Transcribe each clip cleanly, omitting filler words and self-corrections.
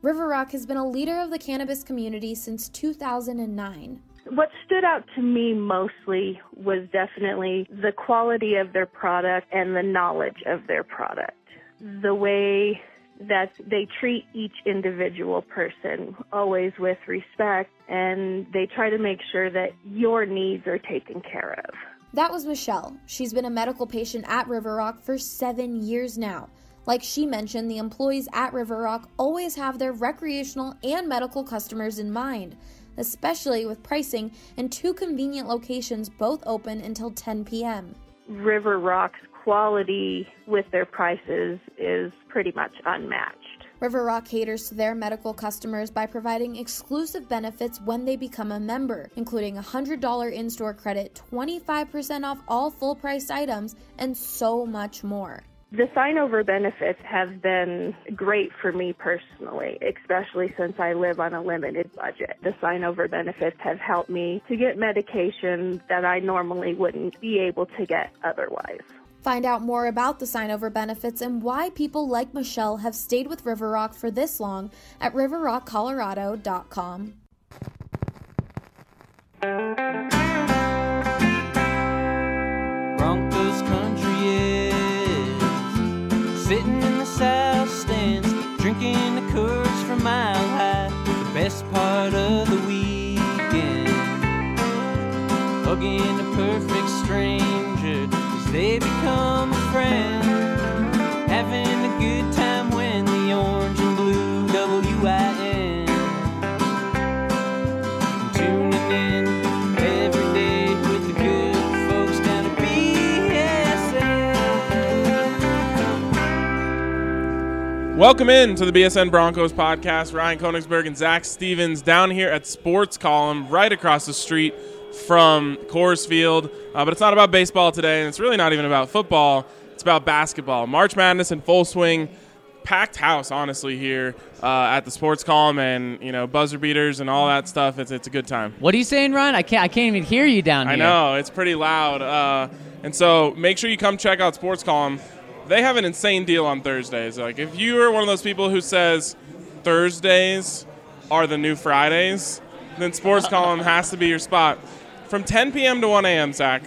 River Rock has been a leader of the cannabis community since 2009. What stood out to me mostly was definitely the quality of their product and the knowledge of their product. The way that they treat each individual person, always with respect, and they try to make sure that your needs are taken care of. That was Michelle. She's been a medical patient at River Rock for 7 years now. Like she mentioned, the employees at River Rock always have their recreational and medical customers in mind, especially with pricing and 2 convenient locations both open until 10 p.m. River Rock's quality with their prices is pretty much unmatched. River Rock caters to their medical customers by providing exclusive benefits when they become a member, including a $100 in-store credit, 25% off all full-priced items, and so much more. The sign-over benefits have been great for me personally, especially since I live on a limited budget. The sign-over benefits have helped me to get medication that I normally wouldn't be able to get otherwise. Find out more about the sign-over benefits and why people like Michelle have stayed with River Rock for this long at riverrockcolorado.com. Broncos country is sitting in the south stands, drinking the Coors from Mile High, the best part of the weekend, hugging a perfect stranger as they become a friend, having a good time when the orange and blue WIN, tuning in every day with the good folks down at BSN. Welcome in to the BSN Broncos podcast. Ryan Koenigsberg and Zach Stevens down here at Sports Column, right across the street from Coors Field. But it's not about baseball today, and it's really not even about football. It's about basketball. March Madness in full swing. Packed house, honestly, here at the Sports Column, and buzzer beaters and all that stuff. It's a good time. What are you saying, Ryan? I can't even hear you down here. I know, it's pretty loud. And so make sure you come check out Sports Column. They have an insane deal on Thursdays. Like, if you are one of those people who says Thursdays are the new Fridays, then Sports Column has to be your spot. From 10 p.m. to 1 a.m., Zach,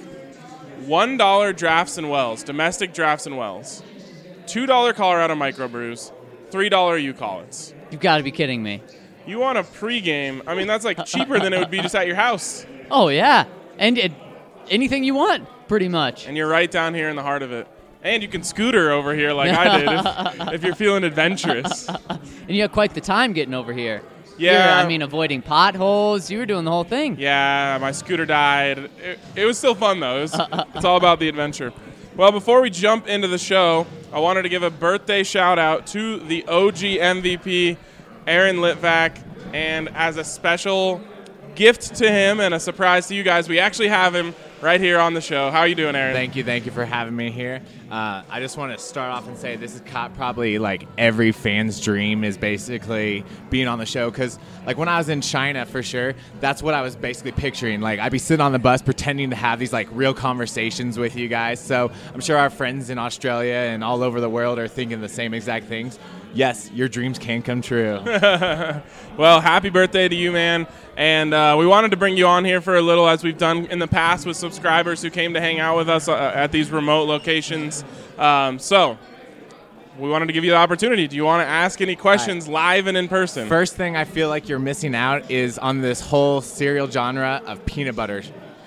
$1 Drafts and Wells, domestic Drafts and Wells, $2 Colorado microbrews, $3 U-Collins. You've got to be kidding me. You want a pregame? I mean, that's like cheaper than it would be just at your house. Oh, yeah. And anything you want, pretty much. And you're right down here in the heart of it. And you can scooter over here like I did if you're feeling adventurous. And you had quite the time getting over here. Yeah. Avoiding potholes. You were doing the whole thing. Yeah, my scooter died. It was still fun, though. It's all about the adventure. Well, before we jump into the show, I wanted to give a birthday shout-out to the OG MVP, Aaron Litvak. And as a special gift to him and a surprise to you guys, we actually have him right here on the show. How are you doing, Aaron? Thank you for having me here. I just want to start off and say this is probably like every fan's dream is basically being on the show, because like when I was in China, for sure, that's what I was basically picturing. Like, I'd be sitting on the bus pretending to have these like real conversations with you guys. So I'm sure our friends in Australia and all over the world are thinking the same exact things. Yes, your dreams can come true. Well, happy birthday to you, man. And we wanted to bring you on here for a little, as we've done in the past with subscribers who came to hang out with us at these remote locations. So we wanted to give you the opportunity. Do you want to ask any questions live and in person? First thing I feel like you're missing out is on this whole cereal genre of peanut butter.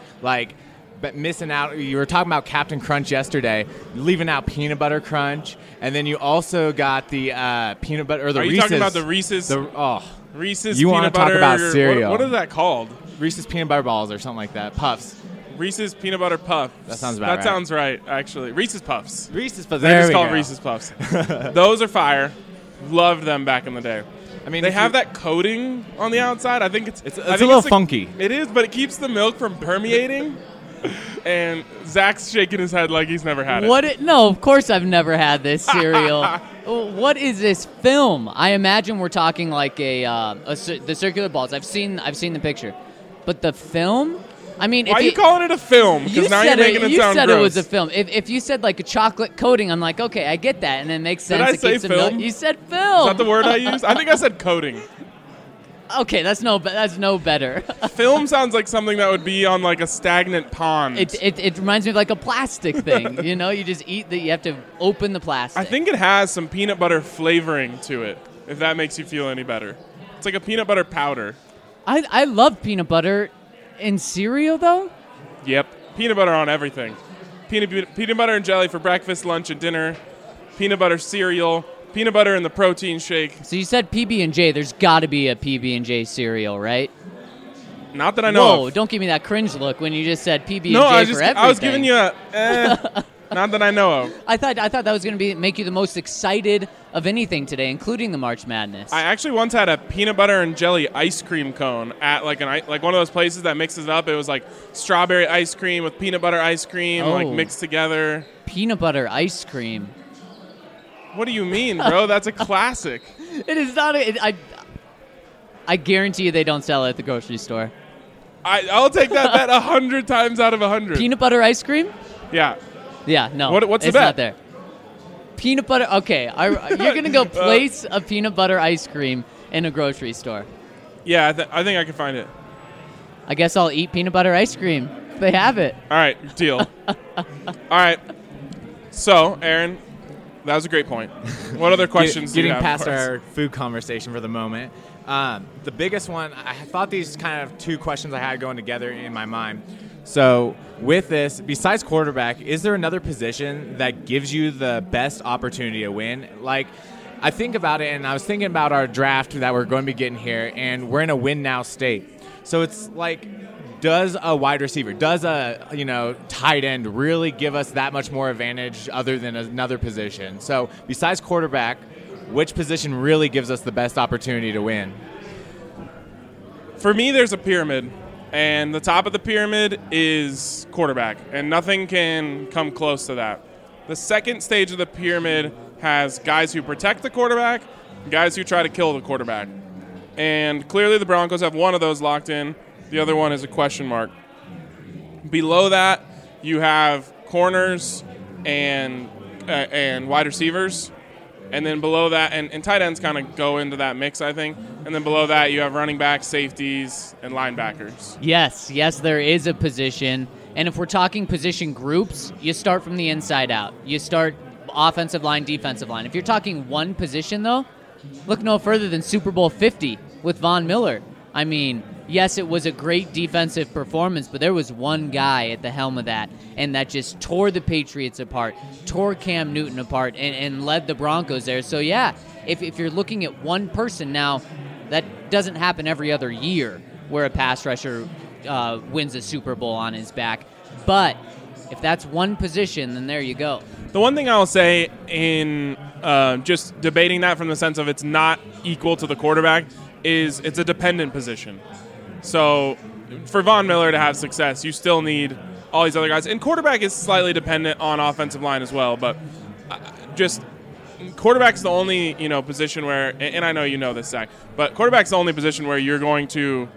But missing out, you were talking about Captain Crunch yesterday, leaving out Peanut Butter Crunch, and then you also got the peanut butter, or the Reese's. Are you talking about the Reese's? Reese's you peanut butter. You want to talk about cereal. What is that called? Reese's Peanut Butter Balls or something like that. Puffs. Reese's Peanut Butter Puff. That sounds about right. That sounds right, actually. Reese's Puffs. Reese's Puffs. They're just called Reese's Puffs. Those are fire. Loved them back in the day. I mean, they have that coating on the outside. I think it's a little funky. It is, but it keeps the milk from permeating. And Zach's shaking his head like he's never had it. No, of course I've never had this cereal. What is this film? I imagine we're talking like the circular balls. I've seen the picture, but the film. I mean, Why are you calling it a film? You Because now you're said making it you sound said gross. it was a film. If you said like a chocolate coating, I'm like, okay, I get that, and it makes sense. Did I It say keeps it film? You said film. Is that the word I used? I think I said coating. Okay, that's no better. Film sounds like something that would be on like a stagnant pond. It reminds me of like a plastic thing. You know, you just eat you have to open the plastic. I think it has some peanut butter flavoring to it, if that makes you feel any better. It's like a peanut butter powder. I love peanut butter in cereal though. Yep. Peanut butter on everything. Peanut butter and jelly for breakfast, lunch, and dinner. Peanut butter cereal. Peanut butter in the protein shake. So you said PB&J. There's got to be a PB&J cereal, right? Not that I know Whoa! of. Don't give me that cringe look when you just said PB&J No, for everything. I was giving you a not that I know of. I thought that was going to make you the most excited of anything today, including the March Madness. I actually once had a peanut butter and jelly ice cream cone at like one of those places that mixes it up. It was like strawberry ice cream with peanut butter ice cream like mixed together. Peanut butter ice cream. What do you mean, bro? That's a classic. It is not. I guarantee you they don't sell it at the grocery store. I'll take that bet 100 times out of 100. Peanut butter ice cream? Yeah. Yeah, no. What's the it's bet? not there. Peanut butter. Okay, you're gonna go place a peanut butter ice cream in a grocery store. Yeah, I think I can find it. I guess I'll eat peanut butter ice cream. They have it. All right, deal. All right. So, Aaron, that was a great point. What other questions do you Getting have past for us? our food conversation for the moment, the biggest one, I thought these kind of two questions I had going together in my mind. So with this, besides quarterback, is there another position that gives you the best opportunity to win? Like, I think about it, and I was thinking about our draft that we're going to be getting here, and we're in a win-now state. So it's like, does a wide receiver, does a tight end really give us that much more advantage other than another position? So besides quarterback, which position really gives us the best opportunity to win? For me, there's a pyramid, and the top of the pyramid is quarterback, and nothing can come close to that. The second stage of the pyramid has guys who protect the quarterback, guys who try to kill the quarterback. And clearly the Broncos have one of those locked in. The other one is a question mark. Below that, you have corners and wide receivers. And then below that, and tight ends kind of go into that mix, I think. And then below that, you have running backs, safeties, and linebackers. Yes, there is a position. And if we're talking position groups, you start from the inside out. You start offensive line, defensive line. If you're talking one position, though, look no further than Super Bowl 50 with Von Miller. I mean, yes, it was a great defensive performance, but there was one guy at the helm of that, and that just tore the Patriots apart, tore Cam Newton apart, and led the Broncos there. So, yeah, if you're looking at one person now, that doesn't happen every other year where a pass rusher wins a Super Bowl on his back. But if that's one position, then there you go. The one thing I'll say in just debating that from the sense of it's not equal to the quarterback is it's a dependent position. So for Von Miller to have success, you still need all these other guys. And quarterback is slightly dependent on offensive line as well. But just quarterback's the only position where, and I know you know this, Zach, but quarterback's the only position where you're going to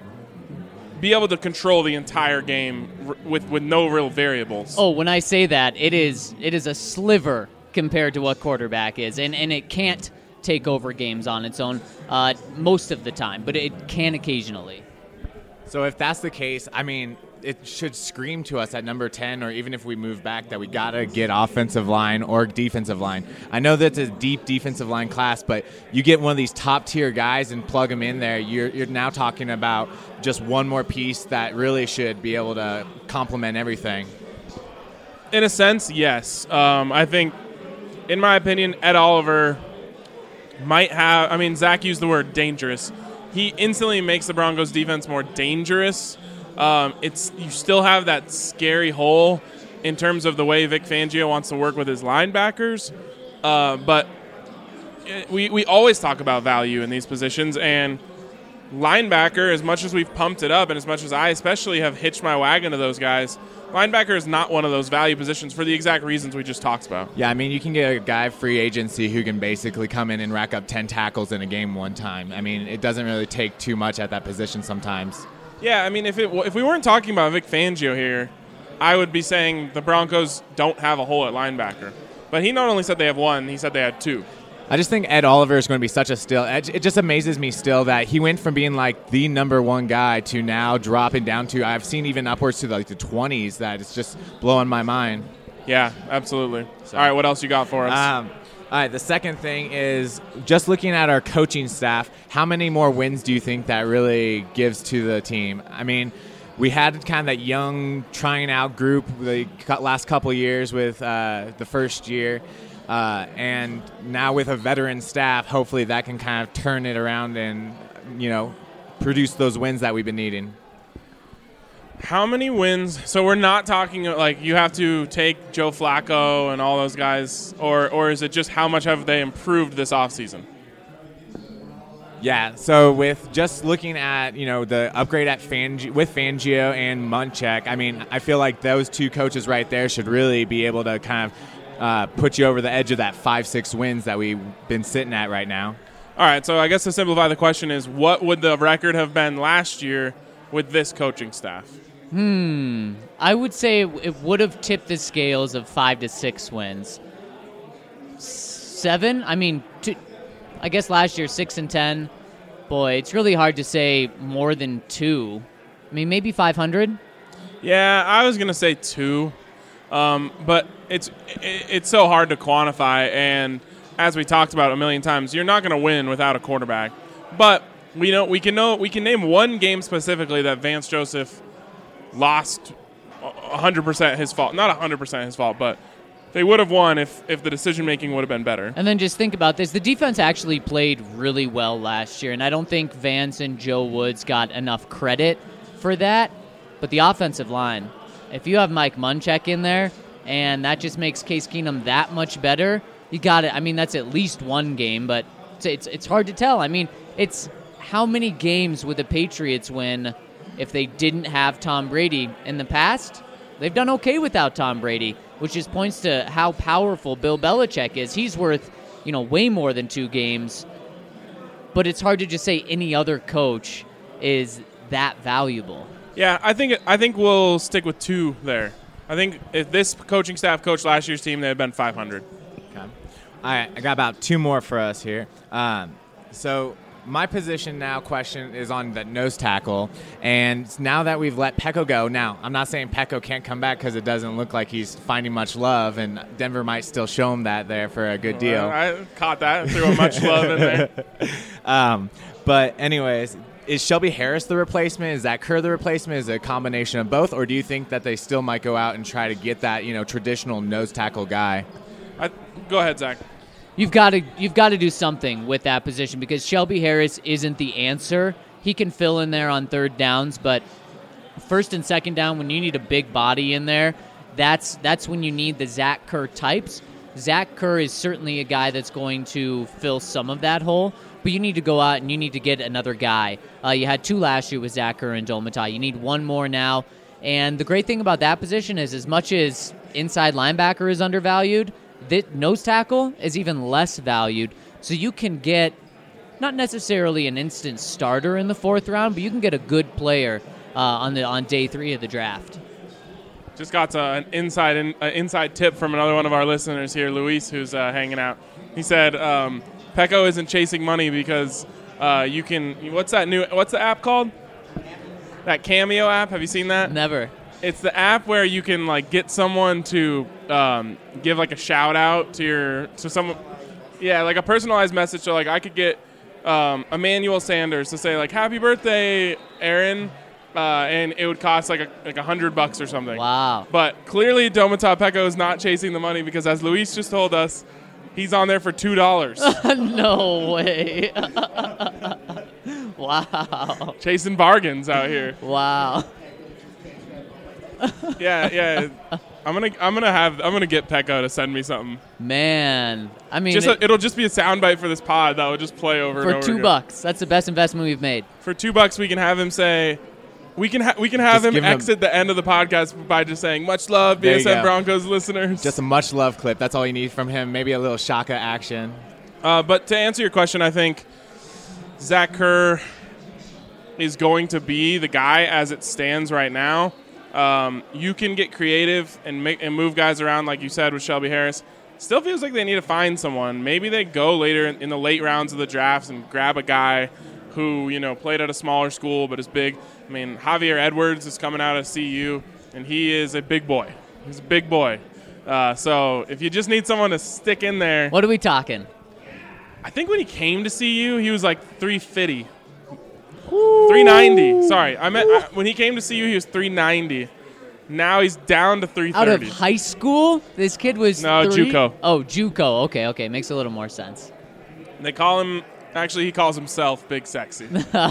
be able to control the entire game with no real variables. Oh, when I say that, it is a sliver compared to what quarterback is, and it can't take over games on its own most of the time, but it can occasionally. So if that's the case, I mean, it should scream to us at number 10, or even if we move back, that we got to get offensive line or defensive line. I know that's a deep defensive line class, but you get one of these top-tier guys and plug them in there, you're now talking about just one more piece that really should be able to complement everything. In a sense, yes. I think, in my opinion, Ed Oliver might have, Zach used the word dangerous. He instantly makes the Broncos defense more dangerous. You still have that scary hole in terms of the way Vic Fangio wants to work with his linebackers. But we always talk about value in these positions, and linebacker, as much as we've pumped it up and as much as I especially have hitched my wagon to those guys, linebacker is not one of those value positions for the exact reasons we just talked about. Yeah, you can get a guy free agency who can basically come in and rack up 10 tackles in a game one time. It doesn't really take too much at that position sometimes. Yeah, I mean, if we weren't talking about Vic Fangio here, I would be saying the Broncos don't have a hole at linebacker. But he not only said they have one, he said they had two. I just think Ed Oliver is going to be such a steal. It just amazes me still that he went from being like the number one guy to now dropping down to, I've seen even upwards to like the 20s, that it's just blowing my mind. Yeah, absolutely. All right, what else you got for us? All right, the second thing is just looking at our coaching staff, how many more wins do you think that really gives to the team? I mean, we had kind of that young trying out group the last couple of years with the first year. And now with a veteran staff, hopefully that can kind of turn it around and, produce those wins that we've been needing. How many wins? So we're not talking like you have to take Joe Flacco and all those guys, or is it just how much have they improved this offseason? Yeah, so with just looking at, the upgrade at with Fangio and Munchak, I mean, I feel like those two coaches right there should really be able to kind of put you over the edge of that 5-6 wins that we've been sitting at right now. All right, so I guess to simplify the question is, what would the record have been last year with this coaching staff? I would say it would have tipped the scales of 5 to 6 wins. 7? I mean, I guess last year 6 and 10. Boy, it's really hard to say more than 2. I mean, maybe 500. Yeah, I was gonna say 2, but it's so hard to quantify. And as we talked about a million times, you're not gonna win without a quarterback. But we can name one game specifically that Vance Joseph lost 100% his fault. Not 100% his fault, but they would have won if the decision-making would have been better. And then just think about this. The defense actually played really well last year, and I don't think Vance and Joe Woods got enough credit for that. But the offensive line, if you have Mike Munchak in there, and that just makes Case Keenum that much better, you got it. I mean, that's at least one game, but it's hard to tell. I mean, it's how many games would the Patriots win if they didn't have Tom Brady? In the past, they've done okay without Tom Brady, which just points to how powerful Bill Belichick is. He's worth, way more than 2 games. But it's hard to just say any other coach is that valuable. Yeah, I think we'll stick with 2 there. I think if this coaching staff coached last year's team, they had been 500. Okay. All right, I got about 2 more for us here. So my position now question is on the nose tackle, and now that we've let Peko go, now I'm not saying Peko can't come back because it doesn't look like he's finding much love, and Denver might still show him that there for a good deal. I caught that and threw a much love in there. But anyways, is Shelby Harris the replacement? Is Zach Kerr the replacement? Is it a combination of both, or do you think that they still might go out and try to get that traditional nose tackle guy? Go ahead, Zach. You've got to do something with that position because Shelby Harris isn't the answer. He can fill in there on third downs, but first and second down, when you need a big body in there, that's when you need the Zach Kerr types. Zach Kerr is certainly a guy that's going to fill some of that hole, but you need to go out and you need to get another guy. You had 2 last year with Zach Kerr and Joel Matai. You need 1 more now. And the great thing about that position is as much as inside linebacker is undervalued, that nose tackle is even less valued. So you can get not necessarily an instant starter in the 4th round, but you can get a good player on day 3 of the draft. Just got an inside tip from another one of our listeners here, Luis, who's hanging out. He said Peko isn't chasing money because you can. What's the app called? That Cameo app. Have you seen that? Never. It's the app where you can get someone to give a shout out to someone. Yeah, like a personalized message. So I could get Emmanuel Sanders to say "Happy birthday, Aaron," and it would cost like $100 or something. Wow. But clearly, Domata Peko is not chasing the money because, as Luis just told us, he's on there for $2. No way. Wow. Chasing bargains out here. Wow. Yeah. I'm gonna get Peko to send me something. Man, I mean, it'll just be a soundbite for this pod that will just play over and over for $2. That's the best investment we've made. For $2, we can have him say, we can have him exit the end of the podcast by just saying, "Much love, BSN Broncos listeners." Just a much love clip. That's all you need from him. Maybe a little Shaka action. But to answer your question, I think Zach Kerr, is going to be the guy as it stands right now. You can get creative and move guys around, like you said with Shelby Harris. Still feels like they need to find someone. Maybe they go later in the late rounds of the drafts and grab a guy who, played at a smaller school but is big. I mean, Javier Edwards is coming out of CU, and he is a big boy. He's a big boy. So if you just need someone to stick in there. What are we talking? I think when he came to CU, he was like 350. 390. Sorry. When he came to CU, he was 390. Now he's down to 330. Out of high school? This kid was JUCO. Oh, JUCO. Okay. Makes a little more sense. They call him, actually he calls himself Big Sexy.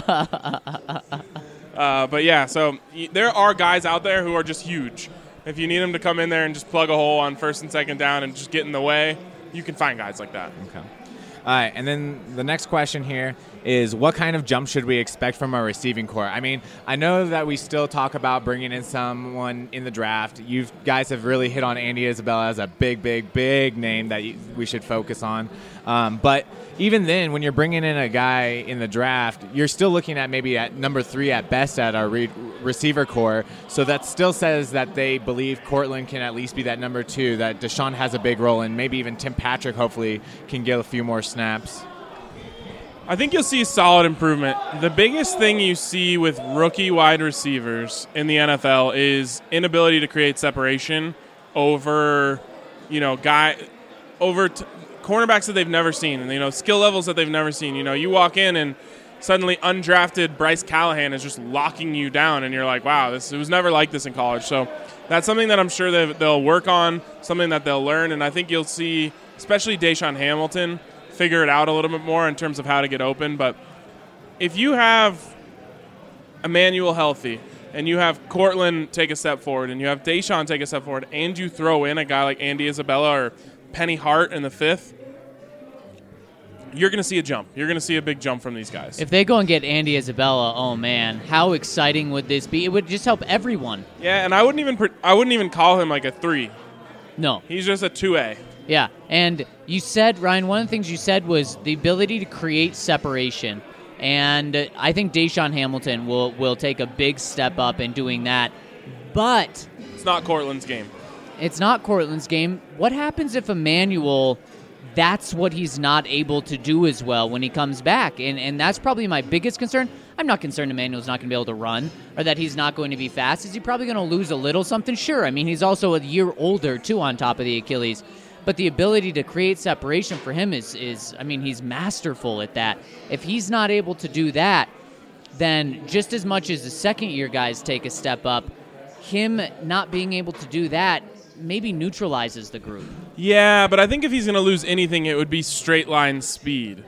But yeah, so there are guys out there who are just huge. If you need them to come in there and just plug a hole on first and second down and just get in the way, you can find guys like that. Okay. All right, and then the next question here is what kind of jump should we expect from our receiving core? I mean, I know that we still talk about bringing in someone in the draft. You guys have really hit on Andy Isabella as a big name that we should focus on. But even then, when you're bringing in a guy in the draft, you're still looking at maybe at number 3 at best at our receiver core. So that still says that they believe Cortland can at least be that number 2, that Deshaun has a big role, and maybe even Tim Patrick hopefully can get a few more snaps. I think you'll see solid improvement. The biggest thing you see with rookie wide receivers in the NFL is inability to create separation over, cornerbacks that they've never seen, and skill levels that they've never seen. You walk in and suddenly undrafted Bryce Callahan is just locking you down, and you're like, wow, it was never like this in college. So that's something that I'm sure they'll work on, something that they'll learn, and I think you'll see, especially Deshaun Hamilton, figure it out a little bit more in terms of how to get open. But if you have Emmanuel healthy and you have Cortland take a step forward and you have Deshaun take a step forward and you throw in a guy like Andy Isabella or Penny Hart in the 5th, you're going to see a jump. You're going to see a big jump from these guys. If they go and get Andy Isabella, oh man, how exciting would this be? It would just help everyone. Yeah, and I wouldn't even call him like a 3. No. He's just a 2A. Yeah, and you said, Ryan, one of the things you said was the ability to create separation. And I think Deshaun Hamilton will take a big step up in doing that. But it's not Cortland's game. It's not Cortland's game. What happens if Emmanuel, that's what he's not able to do as well when he comes back? And that's probably my biggest concern. I'm not concerned Emmanuel's not going to be able to run or that he's not going to be fast. Is he probably going to lose a little something? Sure. I mean, he's also a year older, too, on top of the Achilles. But the ability to create separation for him is he's masterful at that. If he's not able to do that, then just as much as the second-year guys take a step up, him not being able to do that maybe neutralizes the group. Yeah, but I think if he's going to lose anything, it would be straight-line speed.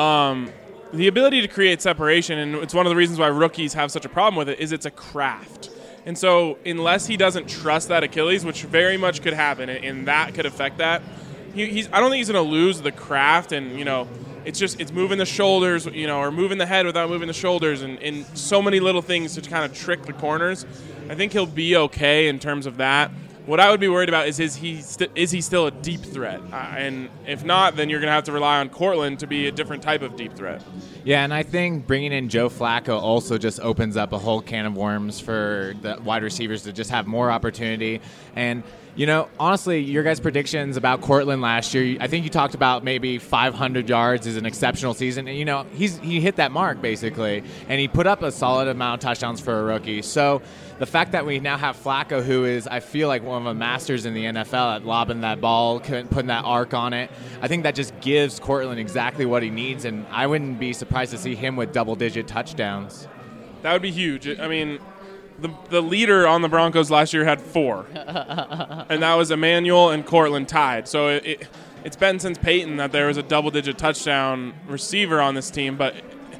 The ability to create separation, and it's one of the reasons why rookies have such a problem with it, is it's a craft. And so unless he doesn't trust that Achilles, which very much could happen, and that could affect that, I don't think he's going to lose the craft. And, it's moving the shoulders, or moving the head without moving the shoulders, and so many little things to kind of trick the corners. I think he'll be okay in terms of that. What I would be worried about is he still a deep threat? And if not, then you're going to have to rely on Cortland to be a different type of deep threat. Yeah, and I think bringing in Joe Flacco also just opens up a whole can of worms for the wide receivers to just have more opportunity. And, honestly, your guys' predictions about Cortland last year, I think you talked about maybe 500 yards is an exceptional season. And, he hit that mark, basically, and he put up a solid amount of touchdowns for a rookie. So the fact that we now have Flacco, who is, I feel like, one of the masters in the NFL at lobbing that ball, putting that arc on it, I think that just gives Cortland exactly what he needs, and I wouldn't be surprised to see him with double-digit touchdowns. That would be huge. I mean, the leader on the Broncos last year had 4, and that was Emmanuel and Cortland tied. So it's been since Peyton that there was a double-digit touchdown receiver on this team, but,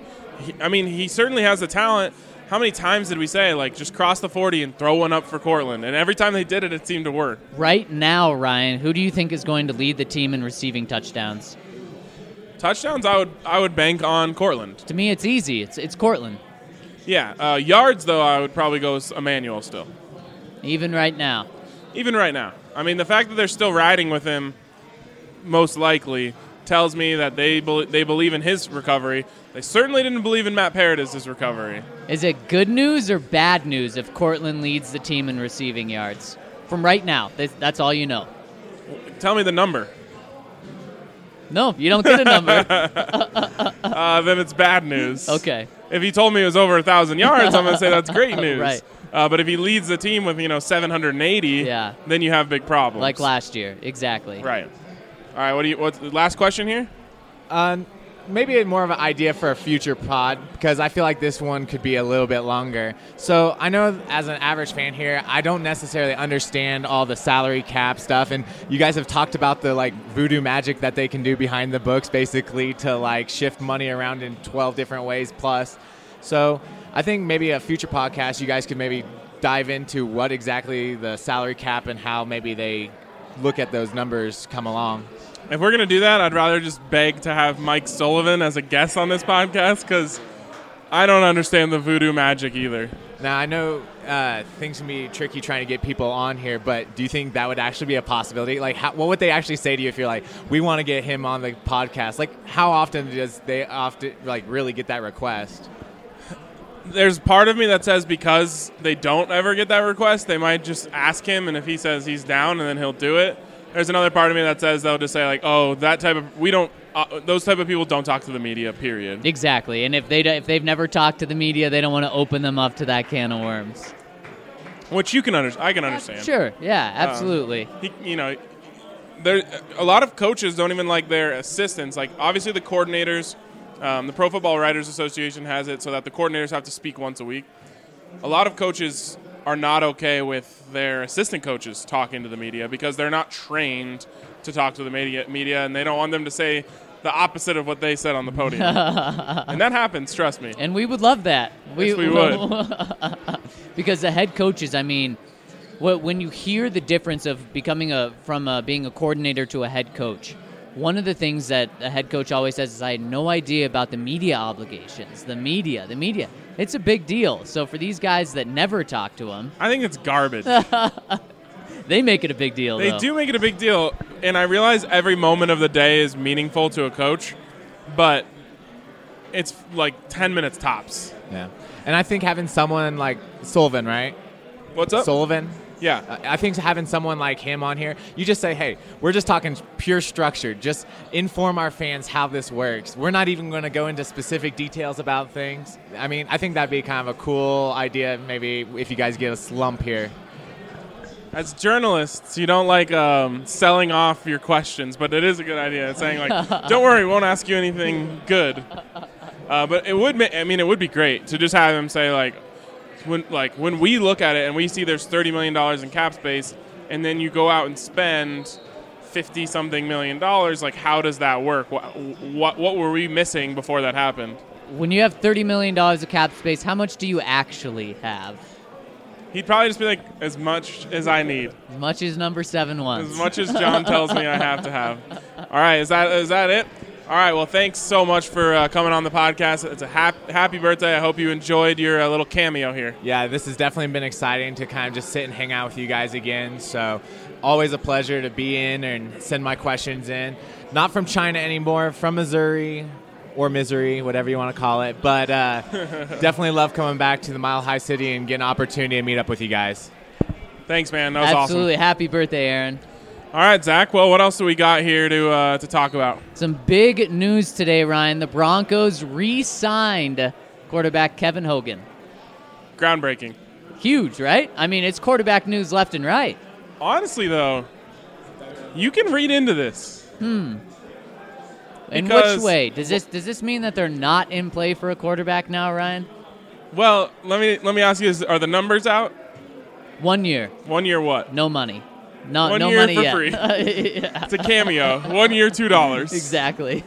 he certainly has the talent. How many times did we say, just cross the 40 and throw one up for Cortland? And every time they did it, it seemed to work. Right now, Ryan, who do you think is going to lead the team in receiving touchdowns? Touchdowns, I would bank on Cortland. To me, it's easy. It's Cortland. Yeah. Yards, though, I would probably go with Emmanuel still. Even right now? Even right now. I mean, the fact that they're still riding with him, most likely, tells me that they believe in his recovery. They certainly didn't believe in Matt Paradis' recovery. Is it good news or bad news if Cortland leads the team in receiving yards? From right now, that's all you know. Tell me the number. No, you don't get a number. Then it's bad news. Okay. If he told me it was over 1,000 yards, I'm going to say that's great news. Right. But if he leads the team with 780, then you have big problems. Like last year, exactly. Right. All right. What's the last question here? Maybe more of an idea for a future pod, because I feel like this one could be a little bit longer. So I know as an average fan here, I don't necessarily understand all the salary cap stuff, and you guys have talked about the voodoo magic that they can do behind the books, basically to shift money around in 12 different ways plus. So I think maybe a future podcast, you guys could maybe dive into what exactly the salary cap and how maybe they look at those numbers come along. If we're going to do that, I'd rather just beg to have Mike Sullivan as a guest on this podcast, because I don't understand the voodoo magic either. Now, I know things can be tricky trying to get people on here, but do you think that would actually be a possibility? What would they actually say to you if you're we want to get him on the podcast? How often does they really get that request? There's part of me that says because they don't ever get that request, they might just ask him, and if he says he's down, and then he'll do it. There's another part of me that says they'll just say those type of people don't talk to the media, period. Exactly. And if they've never talked to the media, they don't want to open them up to that can of worms. Which I can understand. Sure. Yeah, absolutely. There a lot of coaches don't even like their assistants. Obviously the coordinators, the Pro Football Writers Association has it so that the coordinators have to speak once a week. A lot of coaches are not okay with their assistant coaches talking to the media because they're not trained to talk to the media, and they don't want them to say the opposite of what they said on the podium. And that happens, trust me. And we would love that. Yes, we would. Because the head coaches, when you hear the difference of from being a coordinator to a head coach, one of the things that a head coach always says is, I had no idea about the media obligations. The media. It's a big deal. So for these guys that never talk to him, I think it's garbage. They make it a big deal, They do make it a big deal, and I realize every moment of the day is meaningful to a coach, but it's 10 minutes tops. Yeah. And I think having someone like Sullivan, right? What's up? Sullivan? Yeah. I think having someone like him on here, you just say, hey, we're just talking pure structure. Just inform our fans how this works. We're not even going to go into specific details about things. I think that'd be kind of a cool idea, maybe, if you guys get a slump here. As journalists, you don't like selling off your questions, but it is a good idea. It's saying, don't worry, we won't ask you anything good. But it would be great to just have him say, when we look at it and we see there's $30 million in cap space, and then you go out and spend $50-something million, how does that work? What were we missing before that happened? When you have $30 million of cap space, how much do you actually have? He'd probably just be as much as I need. As much as number 7 wants. As much as John tells me I have to have. All right, is that it? All right, well, thanks so much for coming on the podcast. It's a happy birthday. I hope you enjoyed your little cameo here. Yeah, this has definitely been exciting to kind of just sit and hang out with you guys again. So always a pleasure to be in and send my questions in. Not from China anymore, from Missouri or Misery, whatever you want to call it. But definitely love coming back to the Mile High City and getting an opportunity to meet up with you guys. Thanks, man. That was awesome. Absolutely. Happy birthday, Aaron. All right, Zach. Well, what else do we got here to talk about? Some big news today, Ryan. The Broncos re-signed quarterback Kevin Hogan. Groundbreaking. Huge, right? It's quarterback news left and right. Honestly, though, you can read into this. In which way? Does this mean that they're not in play for a quarterback now, Ryan? Well, let me ask you: are the numbers out? 1 year. 1 year what? No money. No, 1 no year money for yet. free. Yeah. It's a cameo. 1 year, $2. Exactly.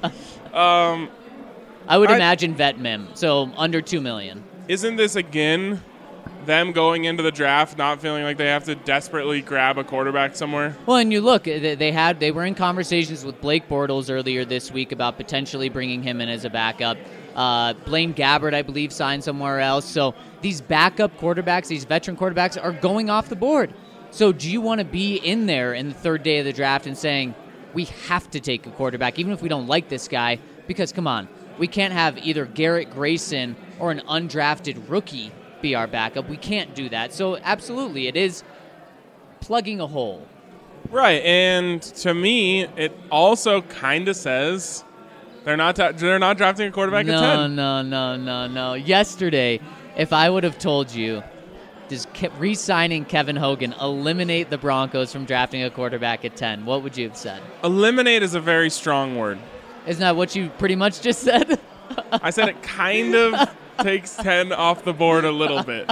I would imagine vet mim, so under $2 million. Isn't this again them going into the draft not feeling like they have to desperately grab a quarterback somewhere? Well, and you look, they were in conversations with Blake Bortles earlier this week about potentially bringing him in as a backup. Blaine Gabbert, I believe, signed somewhere else. So these backup quarterbacks, these veteran quarterbacks, are going off the board. So do you want to be in there in the third day of the draft and saying, we have to take a quarterback, even if we don't like this guy, because, come on, we can't have either Garrett Grayson or an undrafted rookie be our backup. We can't do that. So, absolutely, it is plugging a hole. Right, and to me, it also kind of says they're not drafting a quarterback at 10. No. Yesterday, if I would have told you, does re-signing Kevin Hogan eliminate the Broncos from drafting a quarterback at 10, what would you have said? Eliminate is a very strong word. Isn't that what you pretty much just said? I said it kind of takes 10 off the board a little bit.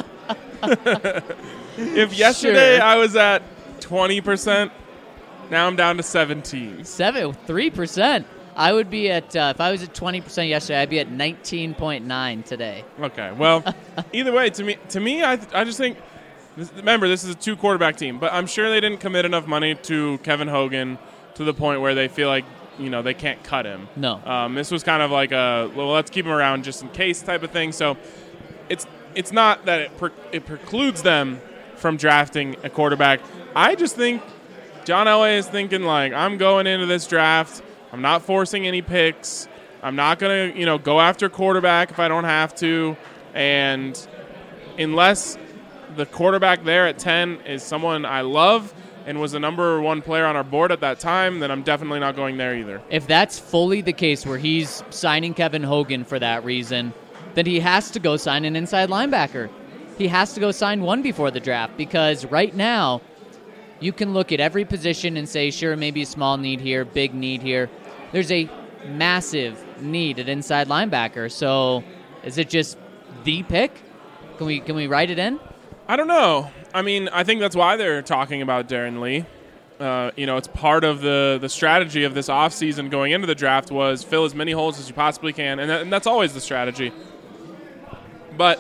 If yesterday I was at 20%, now I'm down to 17. 3%. I would be at, if I was at 20% yesterday, I'd be at 19.9 today. Okay, well, either way, to me, I just think, remember, this is a 2-quarterback team, but I'm sure they didn't commit enough money to Kevin Hogan to the point where they feel like, they can't cut him. No. This was kind of like let's keep him around just in case type of thing. So it's not that it precludes them from drafting a quarterback. I just think John Elway is thinking, like, I'm going into this draft. I'm not forcing any picks. I'm not going to, go after quarterback if I don't have to. And unless the quarterback there at 10 is someone I love and was the number 1 player on our board at that time, then I'm definitely not going there either. If that's fully the case where he's signing Kevin Hogan for that reason, then he has to go sign an inside linebacker. He has to go sign one before the draft, because right now you can look at every position and say, sure, maybe a small need here, big need here. There's a massive need at inside linebacker. So is it just the pick? Can we write it in? I don't know. I mean, I think that's why they're talking about Darren Lee. It's part of the strategy of this offseason going into the draft was fill as many holes as you possibly can, and that's always the strategy. But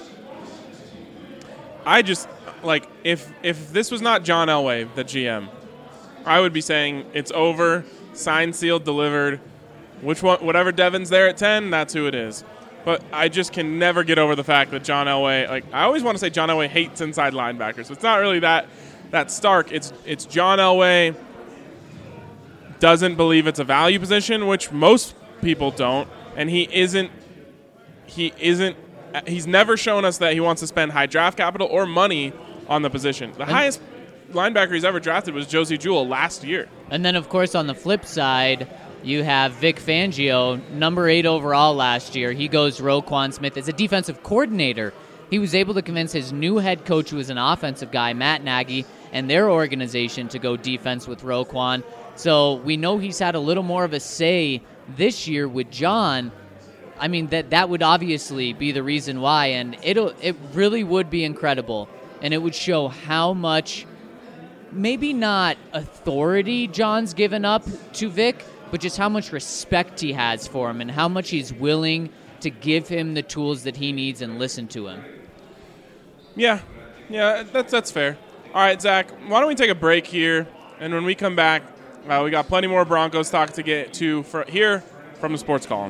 I just, like, if this was not John Elway, the GM, I would be saying it's over, signed, sealed, delivered. Whatever Devin's there at 10, that's who it is. But I just can never get over the fact that John Elway, like, I always want to say John Elway hates inside linebackers. It's not really that stark. It's John Elway doesn't believe it's a value position, which most people don't, and he's never shown us that he wants to spend high draft capital or money on the position. The highest linebacker he's ever drafted was Josie Jewell last year. And then, of course, on the flip side, you have Vic Fangio, number 8 overall last year. He goes Roquan Smith as a defensive coordinator. He was able to convince his new head coach, who is an offensive guy, Matt Nagy, and their organization to go defense with Roquan. So we know he's had a little more of a say this year with John. I mean, that would obviously be the reason why, and it really would be incredible, and it would show how much, maybe not authority John's given up to Vic, but just how much respect he has for him and how much he's willing to give him the tools that he needs and listen to him. Yeah, that's fair. All right, Zach, why don't we take a break here, and when we come back, we got plenty more Broncos talk to get to here from the Sports Column.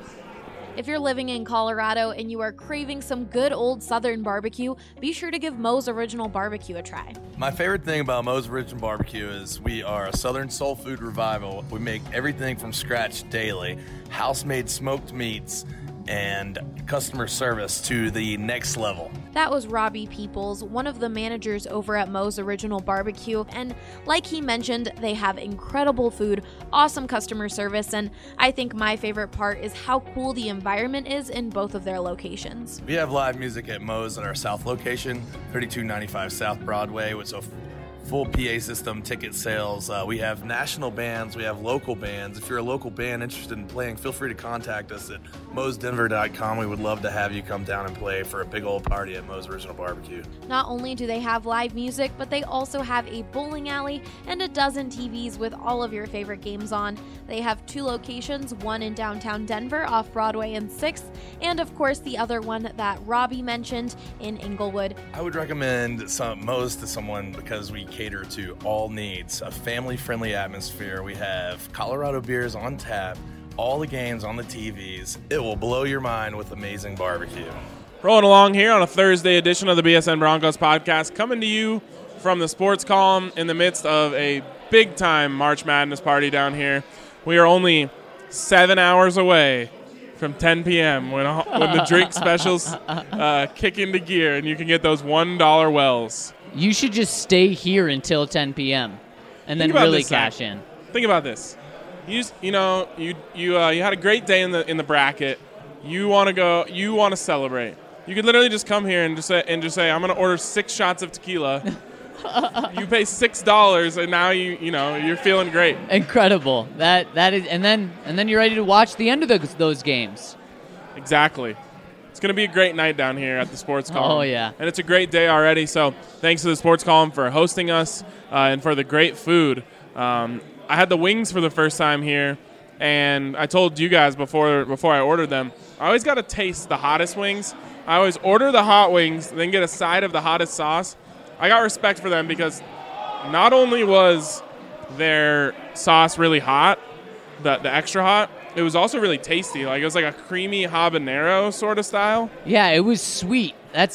If you're living in Colorado and you are craving some good old Southern barbecue, be sure to give Moe's Original Barbecue a try. My favorite thing about Moe's Original Barbecue is we are a Southern soul food revival. We make everything from scratch daily, house-made smoked meats, and customer service to the next level. That was Robbie Peoples, one of the managers over at Moe's Original Barbecue, and like he mentioned, they have incredible food, awesome customer service, and I think my favorite part is how cool the environment is in both of their locations. We have live music at Moe's at our South location, 3295 South Broadway, with a full PA system, ticket sales. We have national bands, we have local bands. If you're a local band interested in playing, feel free to contact us at moesdenver.com. We would love to have you come down and play for a big old party at Moe's Original Barbecue. Not only do they have live music, but they also have a bowling alley and a dozen TVs with all of your favorite games on. They have 2 locations, one in downtown Denver off Broadway and 6th, and of course the other one that Robbie mentioned in Inglewood. I would recommend Moe's to someone because we cater to all needs, a family-friendly atmosphere. We have Colorado beers on tap, all the games on the TVs. It will blow your mind with amazing barbecue. Rolling along here on a Thursday edition of the BSN Broncos podcast, coming to you from the Sports Column in the midst of a big-time March Madness party down here. We are only 7 hours away from 10 p.m. when the drink specials kick into gear and you can get those $1 wells. You should just stay here until 10 p.m. and then really cash in. Think about this. You had a great day in the bracket. You want to celebrate. You could literally just come here and just say I'm going to order 6 shots of tequila. You pay $6 and now you're feeling great. Incredible. That is, and then you're ready to watch the end of those games. Exactly. It's going to be a great night down here at the Sports Column. Oh yeah. And it's a great day already. So thanks to the Sports Column for hosting us and for the great food. I had the wings for the first time here, and I told you guys before I ordered them, I always got to taste the hottest wings. I always order the hot wings, then get a side of the hottest sauce. I got respect for them because not only was their sauce really hot, the extra hot, it was also really tasty. Like it was like a creamy habanero sort of style. Yeah, it was sweet.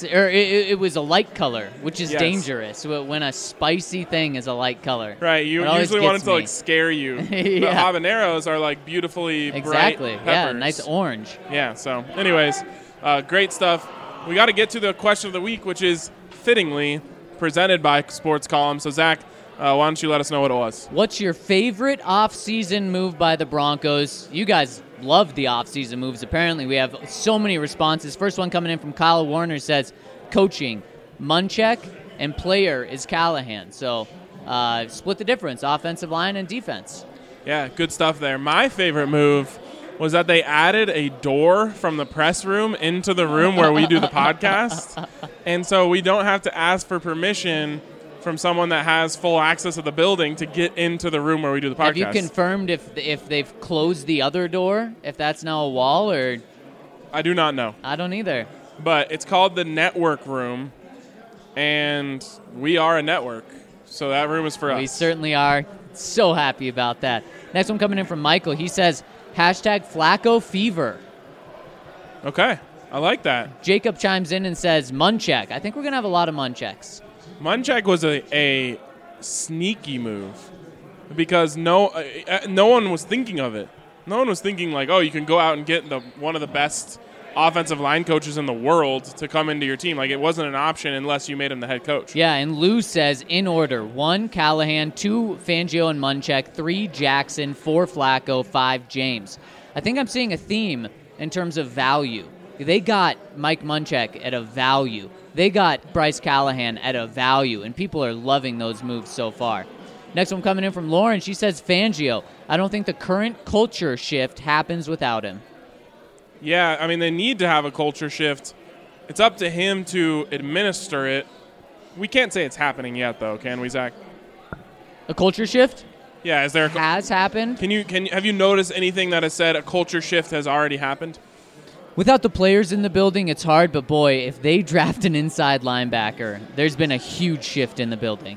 It was a light color, which is dangerous when a spicy thing is a light color. Right, you usually want it to like scare you. Yeah. The habaneros are like beautifully bright peppers. Yeah, nice orange. Yeah, so anyways, great stuff. We got to get to the question of the week, which is fittingly presented by Sports Column. So Zach, why don't you let us know what it was? What's your favorite off-season move by the Broncos? You guys love the off-season moves. Apparently, we have so many responses. First one coming in from Kyle Warner says, coaching, Munchak, and player is Callahan. So split the difference, offensive line and defense. Yeah, good stuff there. My favorite move was that they added a door from the press room into the room where we do the podcast. And so we don't have to ask for permission from someone that has full access to the building to get into the room where we do the podcast. Have you confirmed if they've closed the other door, if that's now a wall, or? I do not know. I don't either. But it's called the network room, and we are a network. So that room is for us. We certainly are. So happy about that. Next one coming in from Michael. He says, #Flacco fever. Okay. I like that. Jacob chimes in and says, Munchak. I think we're going to have a lot of Munchaks. Munchak was a sneaky move because no one was thinking of it. No one was thinking like, oh, you can go out and get one of the best offensive line coaches in the world to come into your team. Like, it wasn't an option unless you made him the head coach. Yeah, and Lou says, in order, 1, Callahan, 2, Fangio and Munchak, 3, Jackson, 4, Flacco, 5, James. I think I'm seeing a theme in terms of value. They got Mike Munchak at a value. They got Bryce Callahan at a value, and people are loving those moves so far. Next one coming in from Lauren. She says, Fangio. I don't think the current culture shift happens without him. Yeah, I mean, they need to have a culture shift. It's up to him to administer it. We can't say it's happening yet, though, can we, Zach? A culture shift? Yeah, is there has happened? Have you noticed anything that has said a culture shift has already happened? Without the players in the building, it's hard, but boy, if they draft an inside linebacker, there's been a huge shift in the building.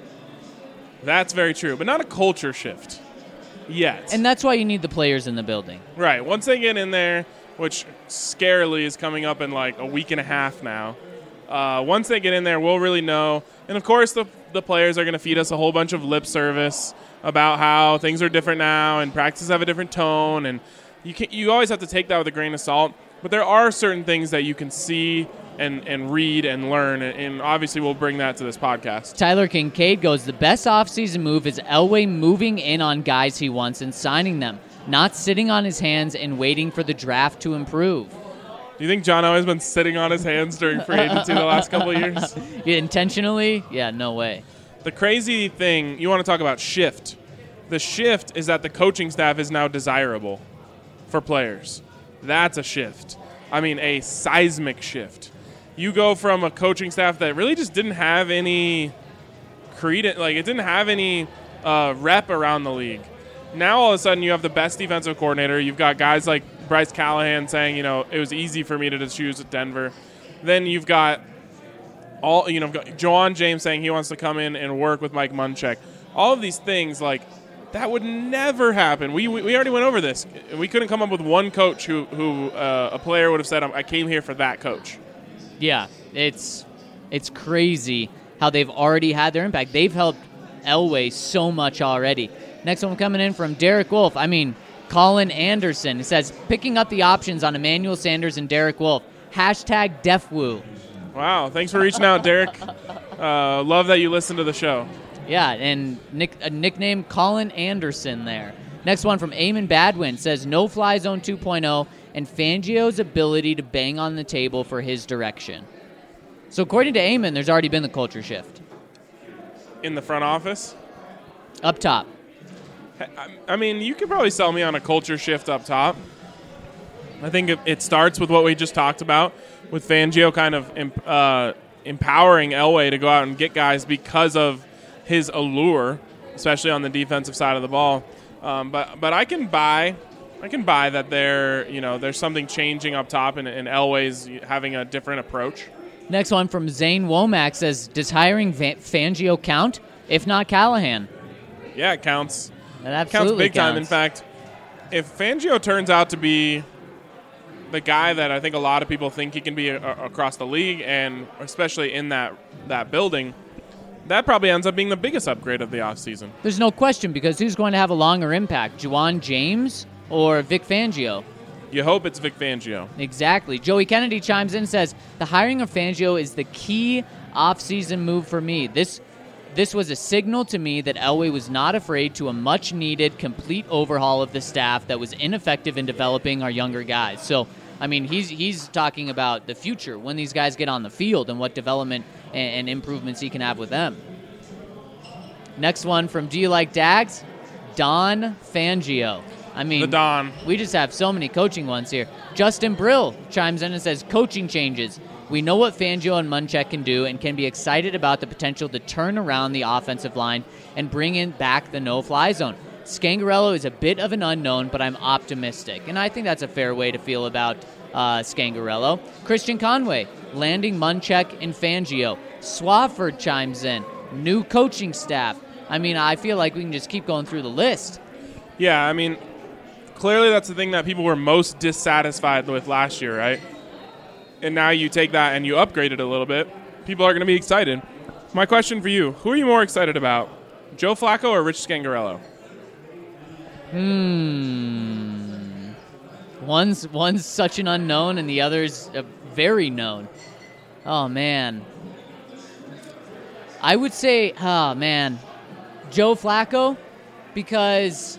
That's very true, but not a culture shift yet. And that's why you need the players in the building. Right. Once they get in there, which scarily is coming up in like a week and a half now, once they get in there, we'll really know. And, of course, the players are going to feed us a whole bunch of lip service about how things are different now and practices have a different tone. And you always have to take that with a grain of salt. But there are certain things that you can see and read and learn, and obviously we'll bring that to this podcast. Tyler Kincaid goes, the best offseason move is Elway moving in on guys he wants and signing them, not sitting on his hands and waiting for the draft to improve. Do you think John Elway's been sitting on his hands during free agency the last couple of years? Yeah, intentionally? Yeah, no way. The crazy thing, you want to talk about shift. The shift is that the coaching staff is now desirable for players. That's a shift. I mean, a seismic shift. You go from a coaching staff that really just didn't have any credence, like it didn't have any rep around the league. Now all of a sudden you have the best defensive coordinator. You've got guys like Bryce Callahan saying, it was easy for me to choose at Denver. Then you've got Juwan James saying he wants to come in and work with Mike Munchak. All of these things, like, that would never happen. We already went over this. We couldn't come up with one coach who a player would have said, I came here for that coach. Yeah, it's crazy how they've already had their impact. They've helped Elway so much already. Next one coming in from Derek Wolf. Colin Anderson. It says, picking up the options on Emmanuel Sanders and Derek Wolf. Hashtag DefWoo. Wow, thanks for reaching out, Derek. Love that you listen to the show. Yeah, and a nickname Colin Anderson there. Next one from Eamon Badwin says, no fly zone 2.0 and Fangio's ability to bang on the table for his direction. So according to Eamon, there's already been the culture shift. In the front office? Up top. You could probably sell me on a culture shift up top. I think it starts with what we just talked about, with Fangio kind of empowering Elway to go out and get guys because of his allure, especially on the defensive side of the ball. But I can buy that there's something changing up top, and Elway's having a different approach. Next one from Zane Womack says, does hiring Fangio count? If not, Callahan. Yeah, it counts. It absolutely counts big time. counts. In fact, if Fangio turns out to be the guy that I think a lot of people think he can be across the league, and especially in that building, that probably ends up being the biggest upgrade of the offseason. There's no question, because who's going to have a longer impact, Juwan James or Vic Fangio? You hope it's Vic Fangio. Exactly. Joey Kennedy chimes in and says, the hiring of Fangio is the key offseason move for me. This was a signal to me that Elway was not afraid to a much-needed complete overhaul of the staff that was ineffective in developing our younger guys. So, he's talking about the future, when these guys get on the field and what development and improvements he can have with them. Next one from Do You Like Dags? Don Fangio. The Don. We just have so many coaching ones here. Justin Brill chimes in and says, coaching changes. We know what Fangio and Munchak can do and can be excited about the potential to turn around the offensive line and bring in back the no-fly zone. Scangarello is a bit of an unknown, but I'm optimistic. And I think that's a fair way to feel about Scangarello. Christian Conway, landing Munchak and Fangio. Swafford chimes in. New coaching staff. I feel like we can just keep going through the list. Yeah, clearly that's the thing that people were most dissatisfied with last year, right? And now you take that and you upgrade it a little bit. People are going to be excited. My question for you, who are you more excited about, Joe Flacco or Rich Scangarello? One's such an unknown and the other's very known. Oh, man. I would say, Joe Flacco, because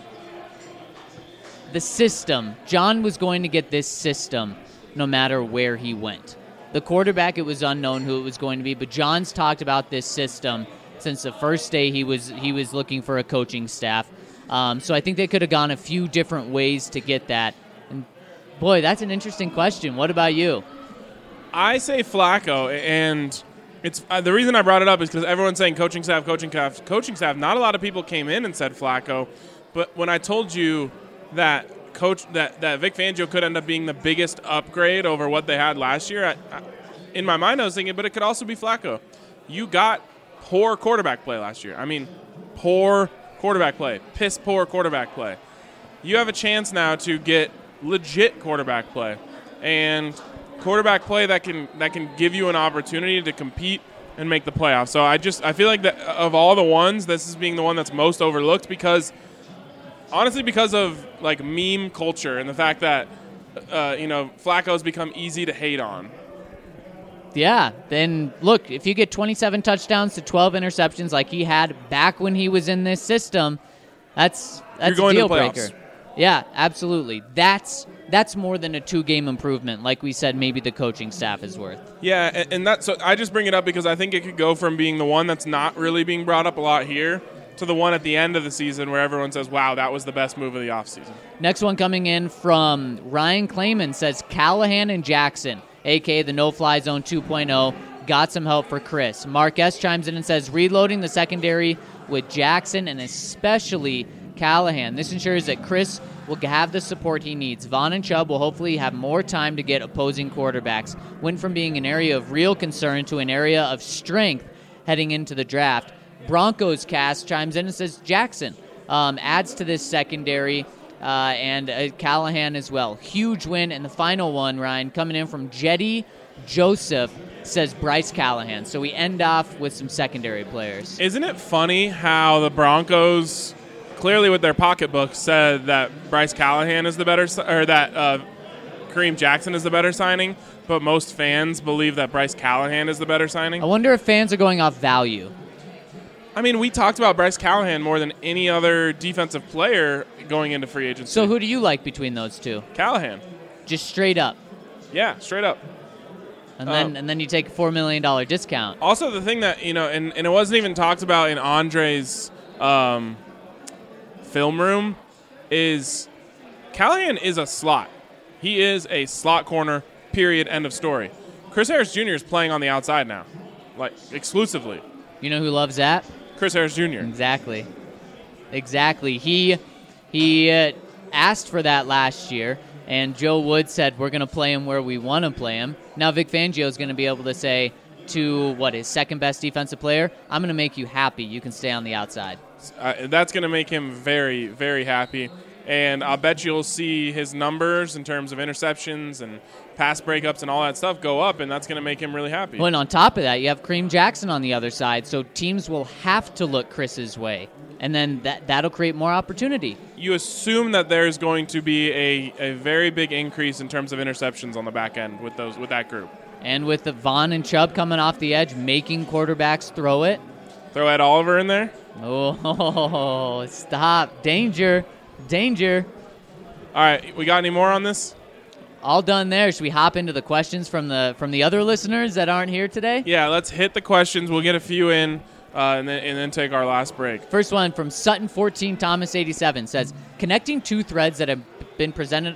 the system, John was going to get this system no matter where he went. The quarterback, it was unknown who it was going to be, but John's talked about this system since the first day he was looking for a coaching staff. So I think they could have gone a few different ways to get that. And boy, that's an interesting question. What about you? I say Flacco, and it's the reason I brought it up is because everyone's saying coaching staff. Not a lot of people came in and said Flacco, but when I told you that that Vic Fangio could end up being the biggest upgrade over what they had last year, in my mind I was thinking, but it could also be Flacco. You got poor quarterback play last year. Poor quarterback play, piss poor quarterback play. You have a chance now to get legit quarterback play, and quarterback play that can give you an opportunity to compete and make the playoffs. So I feel like that of all the ones, this is being the one that's most overlooked because of like meme culture and the fact that Flacco's become easy to hate on. Yeah, then look, if you get 27 touchdowns to 12 interceptions like he had back when he was in this system, that's a deal breaker. Yeah, absolutely. That's more than a 2-game improvement, like we said maybe the coaching staff is worth. Yeah, and so I just bring it up because I think it could go from being the one that's not really being brought up a lot here to the one at the end of the season where everyone says, wow, that was the best move of the offseason. Next one coming in from Ryan Clayman says Callahan and Jackson, a.k.a. the no-fly zone 2.0, got some help for Chris. Mark S. chimes in and says reloading the secondary with Jackson and especially Callahan. This ensures that Chris will have the support he needs. Vaughn and Chubb will hopefully have more time to get opposing quarterbacks. Went from being an area of real concern to an area of strength heading into the draft. Broncos cast chimes in and says Jackson adds to this secondary and Callahan as well. Huge win. And the final one, Ryan, coming in from Jetty Joseph says Bryce Callahan. So we end off with some secondary players. Isn't it funny how the Broncos, clearly with their pocketbook, said that Bryce Callahan is the better, or that Kareem Jackson is the better signing, but most fans believe that Bryce Callahan is the better signing? I wonder if fans are going off value. I mean, we talked about Bryce Callahan more than any other defensive player going into free agency. So who do you like between those two? Callahan. Just straight up. Yeah, straight up. And then you take a $4 million discount. Also, the thing that, and it wasn't even talked about in Andre's film room, is Callahan is a slot. He is a slot corner, period, end of story. Chris Harris Jr. is playing on the outside now, like exclusively. You know who loves that? Chris Harris Jr. Exactly. He asked for that last year, and Joe Wood said, we're going to play him where we want to play him. Now Vic Fangio is going to be able to say to, his second-best defensive player, I'm going to make you happy. You can stay on the outside. That's going to make him very, very happy. And I'll bet you'll see his numbers in terms of interceptions and pass breakups and all that stuff go up, and that's going to make him really happy. Well, and on top of that, you have Kareem Jackson on the other side, so teams will have to look Chris's way. And then that'll create more opportunity. You assume that there's going to be a very big increase in terms of interceptions on the back end with that group. And with the Vaughn and Chubb coming off the edge, making quarterbacks throw it. Throw Ed Oliver in there? Oh, stop. Danger. All right, we got any more on this? All done there. Should we hop into the questions from the other listeners that aren't here today? Yeah, let's hit the questions. We'll get a few in. And then take our last break. First one from Sutton14 Thomas 87 says, connecting two threads that have been presented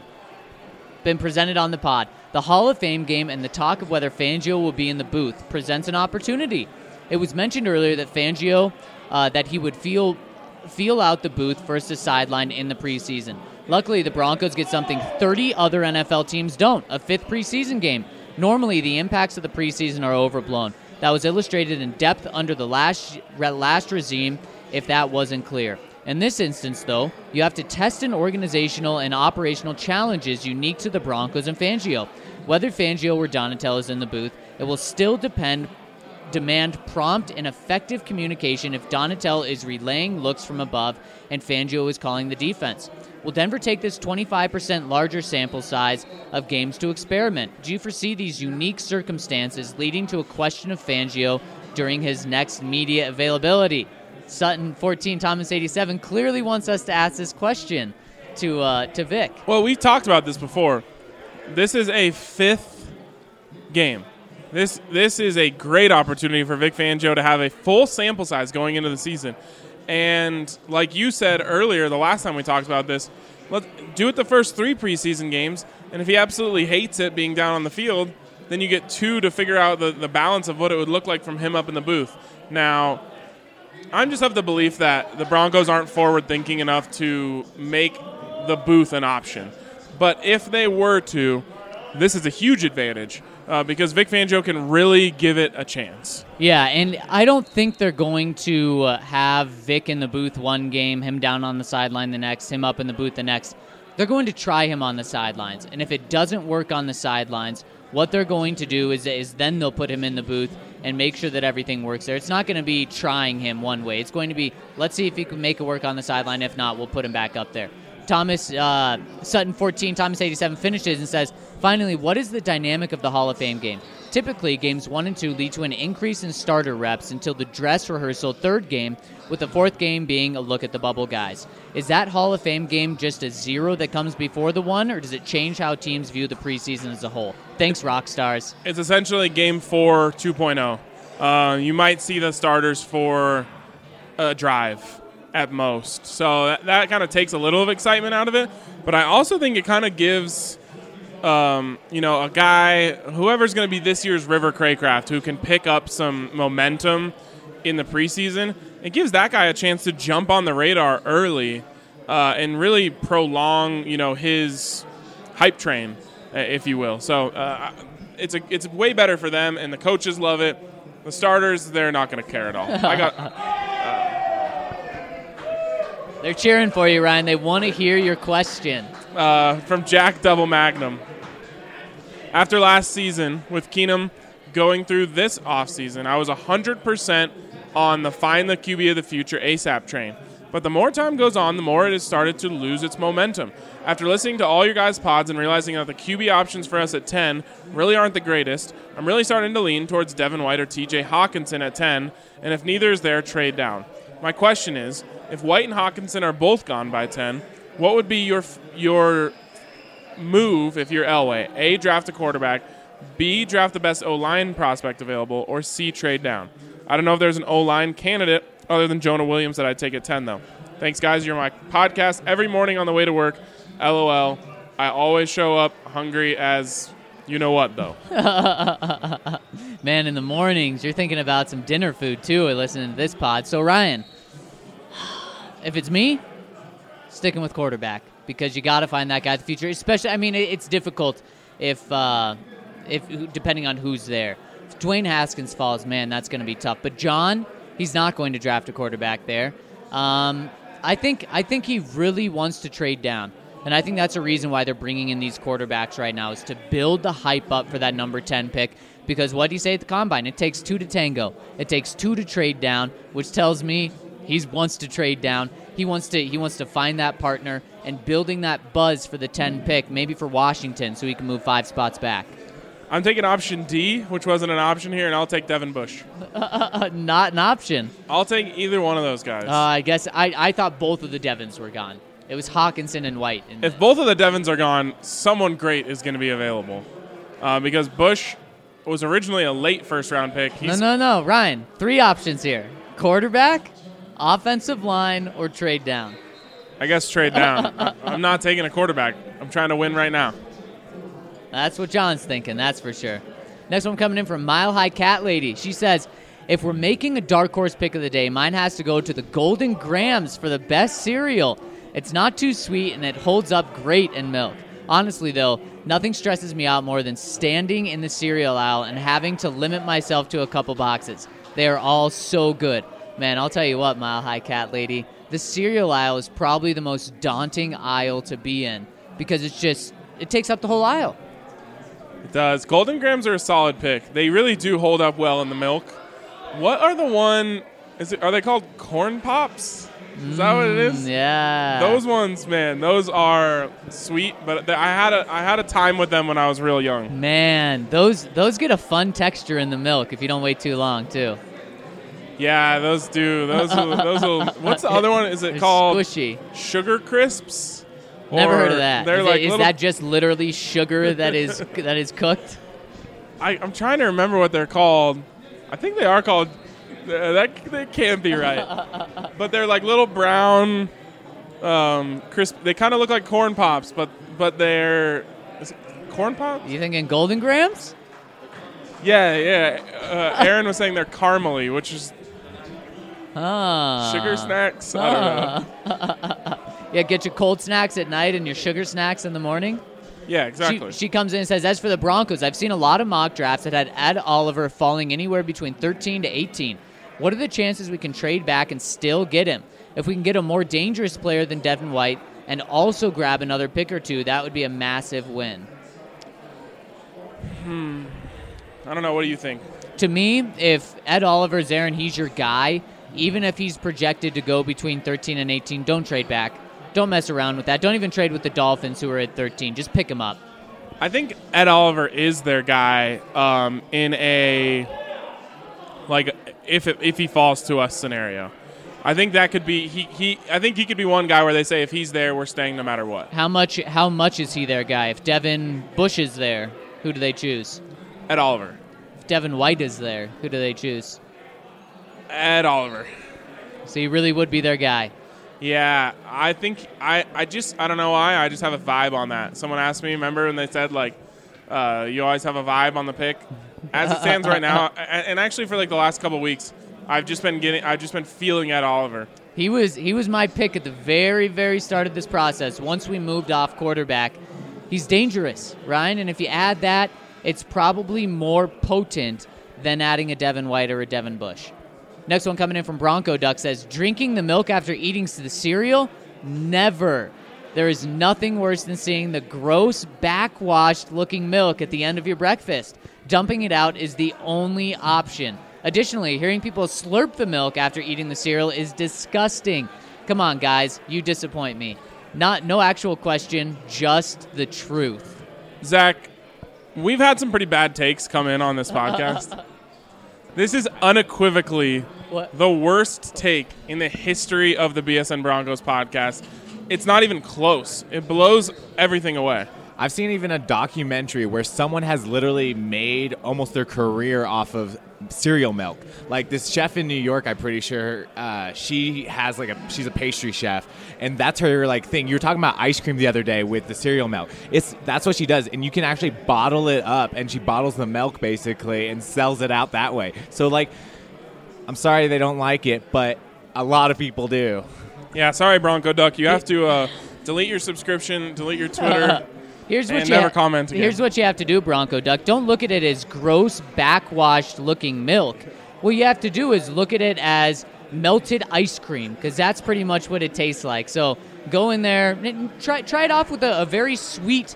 on the pod. The Hall of Fame game and the talk of whether Fangio will be in the booth presents an opportunity. It was mentioned earlier that Fangio that he would feel out the booth versus sideline in the preseason. Luckily, the Broncos get something 30 other NFL teams don't, a fifth preseason game. Normally, the impacts of the preseason are overblown. That was illustrated in depth under the last regime, if that wasn't clear. In this instance, though, you have to test an organizational and operational challenges unique to the Broncos and Fangio. Whether Fangio or Donatell is in the booth, it will still demand prompt and effective communication if Donatell is relaying looks from above and Fangio is calling the defense. Will Denver take this 25% larger sample size of games to experiment? Do you foresee these unique circumstances leading to a question of Fangio during his next media availability? Sutton14 Thomas 87 clearly wants us to ask this question to Vic. Well, we've talked about this before. This is a fifth game. This is a great opportunity for Vic Fangio to have a full sample size going into the season. And like you said earlier, the last time we talked about this, let's do it the first 3 preseason games. And if he absolutely hates it being down on the field, then you get 2 to figure out the balance of what it would look like from him up in the booth. Now, I'm just of the belief that the Broncos aren't forward-thinking enough to make the booth an option. But if they were to, this is a huge advantage. Because Vic Fangio can really give it a chance. Yeah, and I don't think they're going to have Vic in the booth one game, him down on the sideline the next, him up in the booth the next. They're going to try him on the sidelines. And if it doesn't work on the sidelines, what they're going to do is then they'll put him in the booth and make sure that everything works there. It's not going to be trying him one way. It's going to be, let's see if he can make it work on the sideline. If not, we'll put him back up there. Sutton14 Thomas 87 finishes and says, finally, what is the dynamic of the Hall of Fame game? Typically, games 1 and 2 lead to an increase in starter reps until the dress rehearsal third game, with the fourth game being a look at the bubble guys. Is that Hall of Fame game just a 0 that comes before the 1, or does it change how teams view the preseason as a whole? Thanks, Rockstars. It's essentially Game 4 2.0. You might see the starters for a drive at most. So that kind of takes a little of excitement out of it. But I also think it kind of gives, a guy, whoever's going to be this year's River Craycraft, who can pick up some momentum in the preseason, it gives that guy a chance to jump on the radar early and really prolong, his hype train, if you will. So it's way better for them, and the coaches love it. The starters, they're not going to care at all. They're cheering for you, Ryan. They want to hear your question. From Jack Double Magnum. After last season, with Keenum going through this offseason, I was 100% on the find the QB of the future ASAP train. But the more time goes on, the more it has started to lose its momentum. After listening to all your guys' pods and realizing that the QB options for us at 10 really aren't the greatest, I'm really starting to lean towards Devin White or TJ Hawkinson at 10, and if neither is there, trade down. My question is, if White and Hawkinson are both gone by 10, what would be your move if you're Elway? A, draft a quarterback, B, draft the best O-line prospect available, or C, trade down? I don't know if there's an O-line candidate other than Jonah Williams that I'd take at 10, though. Thanks, guys. You're my podcast every morning on the way to work. LOL. I always show up hungry as you know what, though. Man, in the mornings, you're thinking about some dinner food, too, and listening to this pod. So, Ryan, if it's me, sticking with quarterback because you got to find that guy in the future. Especially, I mean, it's difficult if depending on who's there. If Dwayne Haskins falls, man, that's going to be tough. But John, he's not going to draft a quarterback there. I think he really wants to trade down. And I think that's a reason why they're bringing in these quarterbacks right now is to build the hype up for that number 10 pick. Because what do you say at the Combine? It takes 2 to tango. It takes 2 to trade down, which tells me he wants to trade down. He wants to find that partner and building that buzz for the 10 pick, maybe for Washington, so he can move 5 spots back. I'm taking option D, which wasn't an option here, and I'll take Devin Bush. Not an option. I'll take either one of those guys. I guess I thought both of the Devins were gone. It was Hawkinson and White. If both of the Devins are gone, someone great is going to be available. Because Bush was originally a late first-round pick. No, Ryan. 3 options here. Quarterback, offensive line, or trade down. I guess trade down. I'm not taking a quarterback. I'm trying to win right now. That's what John's thinking, that's for sure. Next one coming in from Mile High Cat Lady. She says, if we're making a dark horse pick of the day, mine has to go to the Golden Grahams for the best cereal. It's not too sweet, and it holds up great in milk. Honestly, though, nothing stresses me out more than standing in the cereal aisle and having to limit myself to a couple boxes. They are all so good. Man, I'll tell you what, Mile High Cat Lady, the cereal aisle is probably the most daunting aisle to be in because it takes up the whole aisle. It does. Golden Grahams are a solid pick. They really do hold up well in the milk. What are are they called Corn Pops? Is that what it is? Yeah. Those ones, man, those are sweet, but I had a time with them when I was real young. Man, those get a fun texture in the milk if you don't wait too long, too. Yeah, those do. Those will. What's the other one? Is it called squishy Sugar Crisps? Never heard of that. Is that just literally sugar that is cooked? I'm trying to remember what they're called. I think they are called. That can't be right. But they're like little brown, crisp. They kind of look like Corn Pops, but they're Corn Pops. You thinking Golden Grahams? Yeah. Aaron was saying they're caramely, which is sugar snacks. I don't know. Yeah, get your cold snacks at night and your sugar snacks in the morning. Yeah, exactly. She comes in and says, as for the Broncos, I've seen a lot of mock drafts that had Ed Oliver falling anywhere between 13 to 18. What are the chances we can trade back and still get him? If we can get a more dangerous player than Devin White and also grab another pick or two, that would be a massive win. I don't know. What do you think? To me, if Ed Oliver's there and he's your guy, even if he's projected to go between 13 and 18, don't trade back. Don't mess around with that. Don't even trade with the Dolphins who are at 13. Just pick him up. I think Ed Oliver is their guy in a if he falls to us scenario. I think that could be I think he could be one guy where they say if he's there, we're staying no matter what. How much is he their guy? If Devin Bush is there, who do they choose? Ed Oliver. If Devin White is there, who do they choose? Ed Oliver. So he really would be their guy. Yeah, I think I don't know why. I just have a vibe on that. Someone asked me, remember when they said like, you always have a vibe on the pick. As it stands right now, and actually for like the last couple of weeks, I've just been feeling Ed Oliver. He was my pick at the very, very start of this process. Once we moved off quarterback, he's dangerous, Ryan. And if you add that, it's probably more potent than adding a Devin White or a Devin Bush. Next one coming in from Bronco Duck says, drinking the milk after eating the cereal? Never. There is nothing worse than seeing the gross, backwashed-looking milk at the end of your breakfast. Dumping it out is the only option. Additionally, hearing people slurp the milk after eating the cereal is disgusting. Come on, guys, you disappoint me. No actual question, just the truth. Zach, we've had some pretty bad takes come in on this podcast. This is unequivocally the worst take in the history of the BSN Broncos podcast. It's not even close. It blows everything away. I've seen even a documentary where someone has literally made almost their career off of cereal milk. Like this chef in New York, I'm pretty sure she's a pastry chef, and that's her like thing. You were talking about ice cream the other day with the cereal milk. That's what she does, and you can actually bottle it up, and she bottles the milk basically and sells it out that way. So like, I'm sorry they don't like it, but a lot of people do. Yeah, sorry Bronco Duck, you have to delete your subscription, delete your Twitter. Never comment again. Here's what you have to do, Bronco Duck. Don't look at it as gross, backwashed-looking milk. What you have to do is look at it as melted ice cream, because that's pretty much what it tastes like. So go in there, and try it off with a very sweet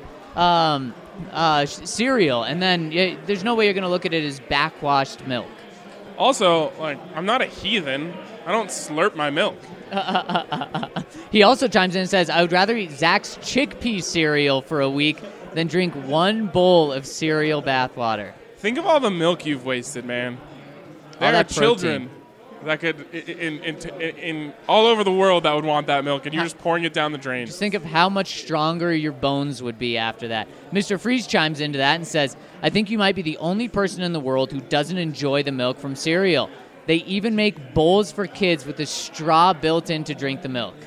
cereal, and then there's no way you're going to look at it as backwashed milk. Also, like, I'm not a heathen. I don't slurp my milk. He also chimes in and says, I would rather eat Zach's chickpea cereal for a week than drink one bowl of cereal bathwater. Think of all the milk you've wasted, man. There are children that could, in all over the world, that would want that milk, and you're just pouring it down the drain. Just think of how much stronger your bones would be after that. Mr. Freeze chimes into that and says, I think you might be the only person in the world who doesn't enjoy the milk from cereal. They even make bowls for kids with a straw built in to drink the milk.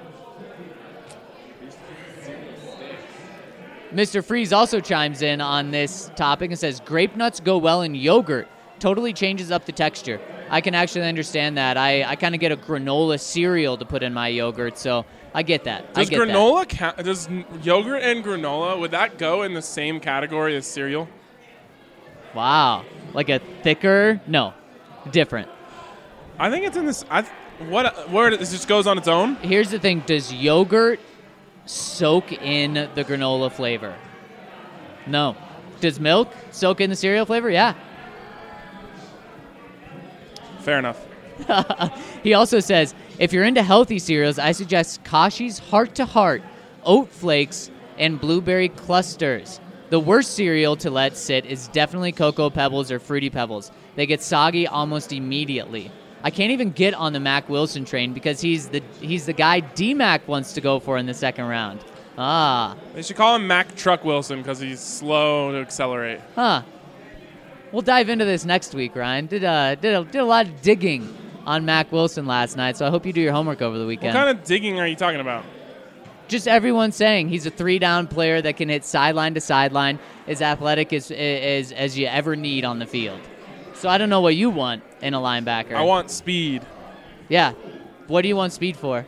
Mr. Freeze also chimes in on this topic and says, grape nuts go well in yogurt. Totally changes up the texture. I can actually understand that. I kind of get a granola cereal to put in my yogurt, so I get that. Does yogurt and granola, would that go in the same category as cereal? Wow. Like a thicker? No. Different. I think it's in this. Where it just goes on its own? Here's the thing. Does yogurt soak in the granola flavor? No. Does milk soak in the cereal flavor? Yeah. Fair enough. He also says, if you're into healthy cereals, I suggest Kashi's Heart to Heart, Oat Flakes, and Blueberry Clusters. The worst cereal to let sit is definitely Cocoa Pebbles or Fruity Pebbles. They get soggy almost immediately. I can't even get on the Mac Wilson train because he's the guy D-Mac wants to go for in the second round. They should call him Mac Truck Wilson because he's slow to accelerate. We'll dive into this next week, Ryan. Did a lot of digging on Mac Wilson last night, so I hope you do your homework over the weekend. What kind of digging are you talking about? Just everyone saying he's a 3-down player that can hit sideline to sideline, as athletic as you ever need on the field. So I don't know what you want in a linebacker. I want speed. Yeah. What do you want speed for?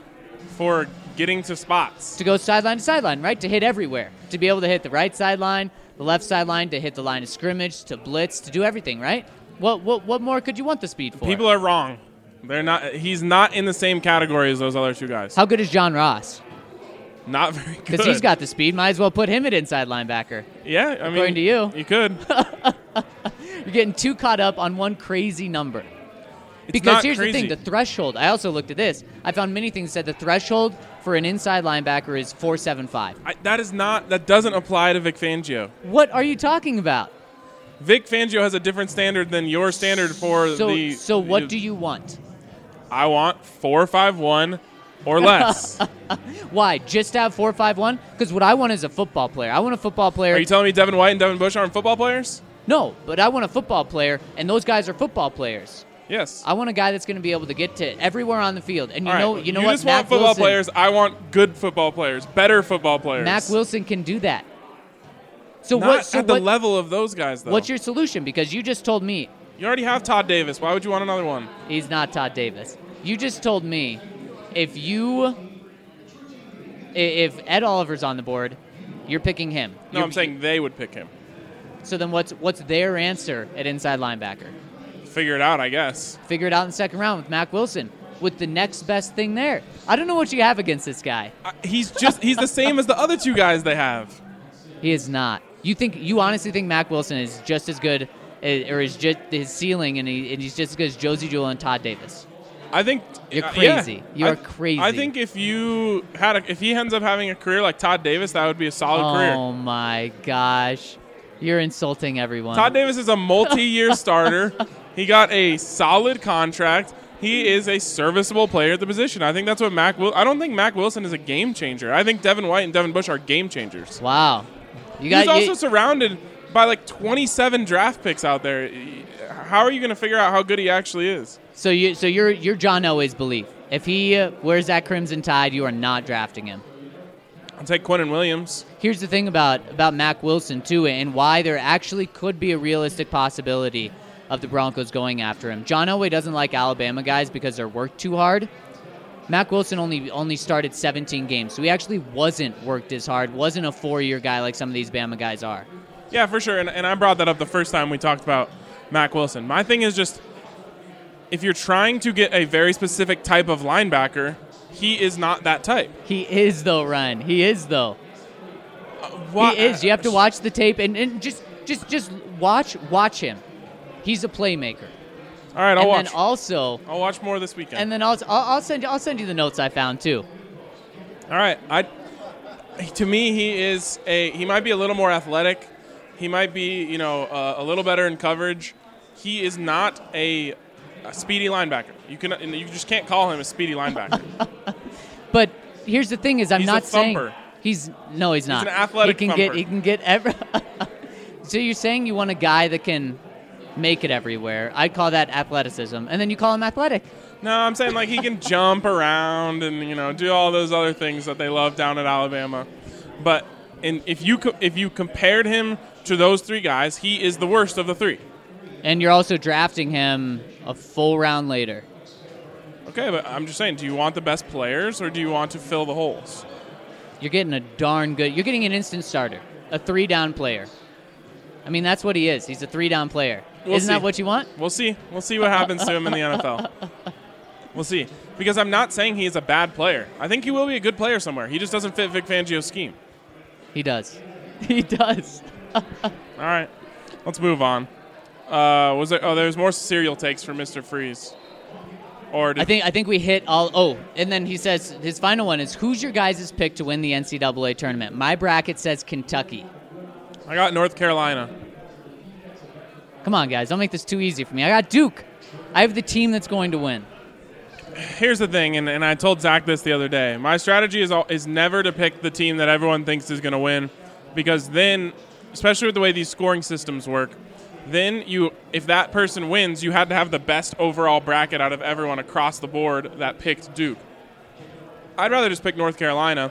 For getting to spots. To go sideline to sideline, right? To hit everywhere. To be able to hit the right sideline, the left sideline, to hit the line of scrimmage, to blitz, to do everything, right? What more could you want the speed for? People are wrong. They're not. He's not in the same category as those other two guys. How good is John Ross? Not very good. Because he's got the speed. Might as well put him at inside linebacker. Yeah, I mean, according to you. You could. You're getting too caught up on one crazy number. Because here's the thing, the threshold. I also looked at this. I found many things that said the threshold for an inside linebacker is 4.75. That doesn't apply to Vic Fangio. What are you talking about? Vic Fangio has a different standard than your standard for the... So what do you want? I want 4.51 or less. Why? Just to have 4.51? Because what I want is a football player. I want a football player... Are you telling me Devin White and Devin Bush aren't football players? No, but I want a football player, and those guys are football players. Yes. I want a guy that's going to be able to get to everywhere on the field. And you know what? You just want football players. I want good football players, better football players. Mac Wilson can do that. So Not at the level of those guys, though. What's your solution? Because you just told me. You already have Todd Davis. Why would you want another one? He's not Todd Davis. You just told me if Ed Oliver's on the board, you're picking him. No, I'm saying they would pick him. So then what's their answer at inside linebacker? Figure it out, I guess. Figure it out in the second round with Mac Wilson. with the next best thing there. I don't know what you have against this guy. He's the same as the other two guys they have. He is not. You honestly think Mack Wilson is just as good, or is just his ceiling, and he's just as good as Josie Jewell and Todd Davis? I think you're crazy. Yeah. You're crazy. I think if he ends up having a career like Todd Davis, that would be a solid career. Oh my gosh, you're insulting everyone. Todd Davis is a multi-year starter. He got a solid contract. He is a serviceable player at the position. I think that's what I don't think Mack Wilson is a game changer. I think Devin White and Devin Bush are game changers. Wow. He's also surrounded by like 27 draft picks out there. How are you going to figure out how good he actually is? So you're John Elway's belief. If he wears that Crimson Tide, you are not drafting him. I'll take Quinnen Williams. Here's the thing about Mack Wilson, too, and why there actually could be a realistic possibility of the Broncos going after him. John Elway doesn't like Alabama guys because they're worked too hard. Mack Wilson only started 17 games, so he actually wasn't worked as hard, wasn't a 4-year guy like some of these Bama guys are. Yeah, for sure, and I brought that up the first time we talked about Mack Wilson. My thing is just, if you're trying to get a very specific type of linebacker, he is not that type. He is, though, Ryan. He is, though. He is. You have to watch the tape and just watch him. He's a playmaker. All right, I'll watch. And then also, I'll watch more this weekend. And then I'll send you the notes I found too. All right, to me he might be a little more athletic. He might be a little better in coverage. He is not a speedy linebacker. You just can't call him a speedy linebacker. But here's the thing: I'm not saying he's not. He's an athletic thumper. He can get every. So you're saying you want a guy that can make it everywhere? I'd call that athleticism, and then you call him athletic. No, I'm saying like he can jump around and do all those other things that they love down at Alabama. But if you compared him to those three guys, he is the worst of the three. And you're also drafting him a full round later. Okay, but I'm just saying, do you want the best players or do you want to fill the holes? You're getting you're getting an instant starter, a 3-down player. I mean, that's what he is. He's a 3-down player. Isn't that what you want? We'll see. We'll see what happens to him in the NFL. We'll see. Because I'm not saying he's a bad player. I think he will be a good player somewhere. He just doesn't fit Vic Fangio's scheme. He does. He does. All right. Let's move on. There's more cereal takes for Mr. Freeze. I think we hit all. Oh, and then he says his final one is, who's your guys' pick to win the NCAA tournament? My bracket says Kentucky. I got North Carolina. Come on, guys. Don't make this too easy for me. I got Duke. I have the team that's going to win. Here's the thing, and I told Zach this the other day. My strategy is never to pick the team that everyone thinks is going to win, because then, especially with the way these scoring systems work, then if that person wins, you had to have the best overall bracket out of everyone across the board that picked Duke. I'd rather just pick North Carolina,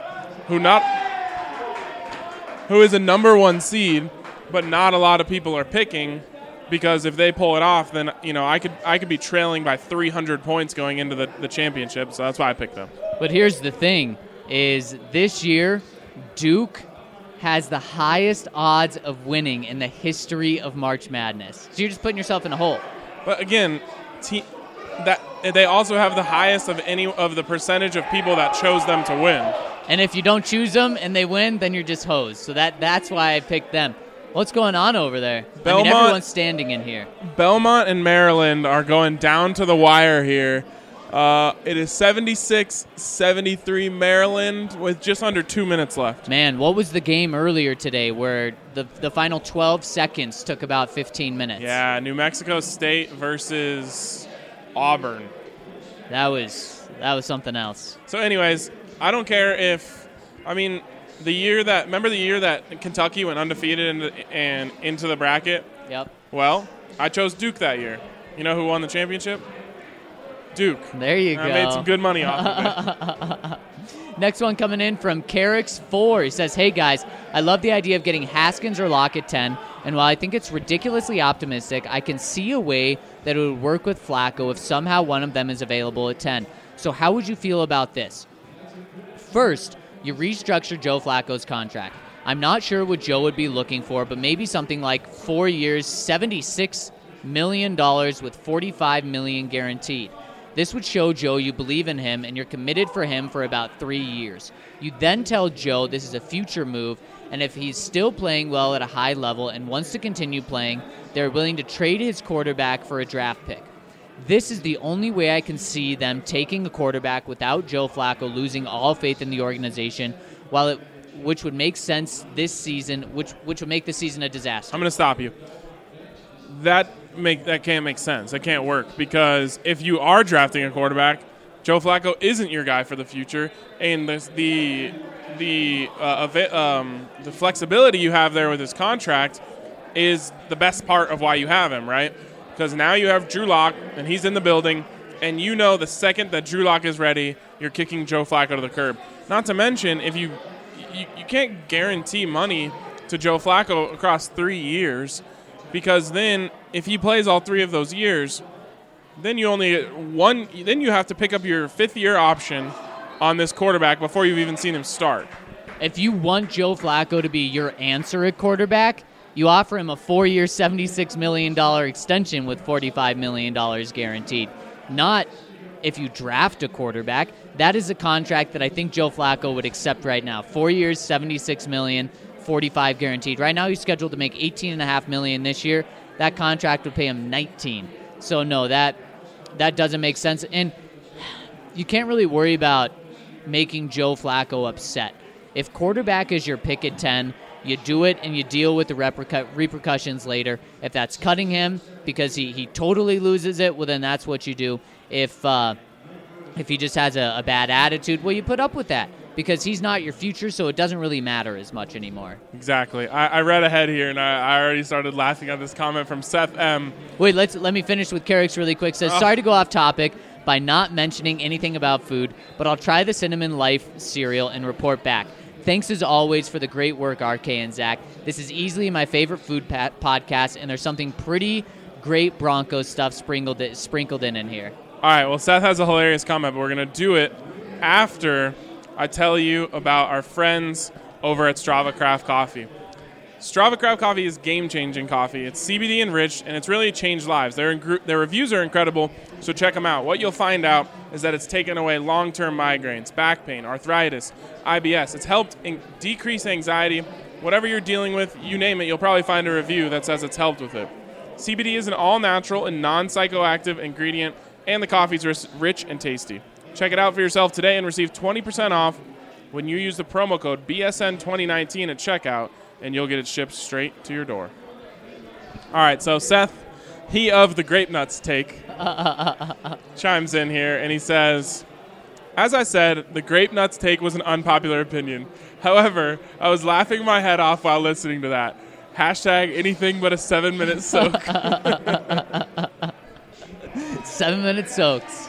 who is a number 1 seed, but not a lot of people are picking, because if they pull it off, then I could be trailing by 300 points going into the championship. So that's why I picked them. But here's the thing: is this year Duke has the highest odds of winning in the history of March Madness. So you're just putting yourself in a hole. But again, that they also have the highest of any of the percentage of people that chose them to win. And if you don't choose them and they win, then you're just hosed. So that's why I picked them. What's going on over there? Everyone's standing in here. Belmont and Maryland are going down to the wire here. It is 76-73 Maryland with just under 2 minutes left. Man, what was the game earlier today where the final 12 seconds took about 15 minutes? Yeah, New Mexico State versus Auburn. That was something else. So anyways, I don't care if – remember the year that Kentucky went undefeated and into the bracket? Yep. Well, I chose Duke that year. You know who won the championship? Duke. There you go. I made some good money off of it. Next one coming in from Carrix4. He says, hey, guys, I love the idea of getting Haskins or Locke at 10, and while I think it's ridiculously optimistic, I can see a way that it would work with Flacco if somehow one of them is available at 10. So how would you feel about this? First, you restructure Joe Flacco's contract. I'm not sure what Joe would be looking for, but maybe something like 4 years, $76 million with $45 million guaranteed. This would show Joe you believe in him and you're committed for him for about 3 years. You then tell Joe this is a future move, and if he's still playing well at a high level and wants to continue playing, they're willing to trade his quarterback for a draft pick. This is the only way I can see them taking a quarterback without Joe Flacco losing all faith in the organization, which would make sense this season, which would make the season a disaster. I'm going to stop you. That can't make sense. That can't work, because if you are drafting a quarterback, Joe Flacco isn't your guy for the future, and the flexibility you have there with his contract is the best part of why you have him, right? Because now you have Drew Lock, and he's in the building, and you know the second that Drew Lock is ready, you're kicking Joe Flacco to the curb. Not to mention, if you can't guarantee money to Joe Flacco across 3 years, because then if he plays all 3 of those years, then you only get one. Then you have to pick up your 5th-year option on this quarterback before you've even seen him start. If you want Joe Flacco to be your answer at quarterback, you offer him a 4-year, $76 million extension with $45 million guaranteed. Not if you draft a quarterback. That is a contract that I think Joe Flacco would accept right now. 4 years, $76 million, $45 guaranteed. Right now he's scheduled to make $18.5 million this year. That contract would pay him $19. So no, that doesn't make sense. And you can't really worry about making Joe Flacco upset. If quarterback is your pick at 10, you do it and you deal with the repercussions later. If that's cutting him because he totally loses it, well, then that's what you do. If he just has a bad attitude, well, you put up with that because he's not your future, so it doesn't really matter as much anymore. Exactly. I read ahead here, and I already started laughing at this comment from Seth M. Wait, let me finish with Carrick's really quick. Says, sorry to go off topic by not mentioning anything about food, but I'll try the Cinnamon Life cereal and report back. Thanks as always for the great work, RK and Zach. This is easily my favorite food podcast, and there's something pretty great Broncos stuff sprinkled in here. All right, well, Seth has a hilarious comment, but we're going to do it after I tell you about our friends over at Strava Craft Coffee. Strava Craft Coffee is game-changing coffee. It's CBD enriched, and it's really changed lives. Their reviews are incredible, so check them out. What you'll find out is that it's taken away long-term migraines, back pain, arthritis, IBS. It's helped decrease anxiety. Whatever you're dealing with, you name it, you'll probably find a review that says it's helped with it. CBD is an all-natural and non-psychoactive ingredient, and the coffee's rich and tasty. Check it out for yourself today and receive 20% off when you use the promo code BSN2019 at checkout, and you'll get it shipped straight to your door. All right, so Seth, he of the Grape Nuts take, chimes in here, and he says, as I said, the Grape Nuts take was an unpopular opinion. However, I was laughing my head off while listening to that. Hashtag anything but a 7-minute soak. 7-minute soaks.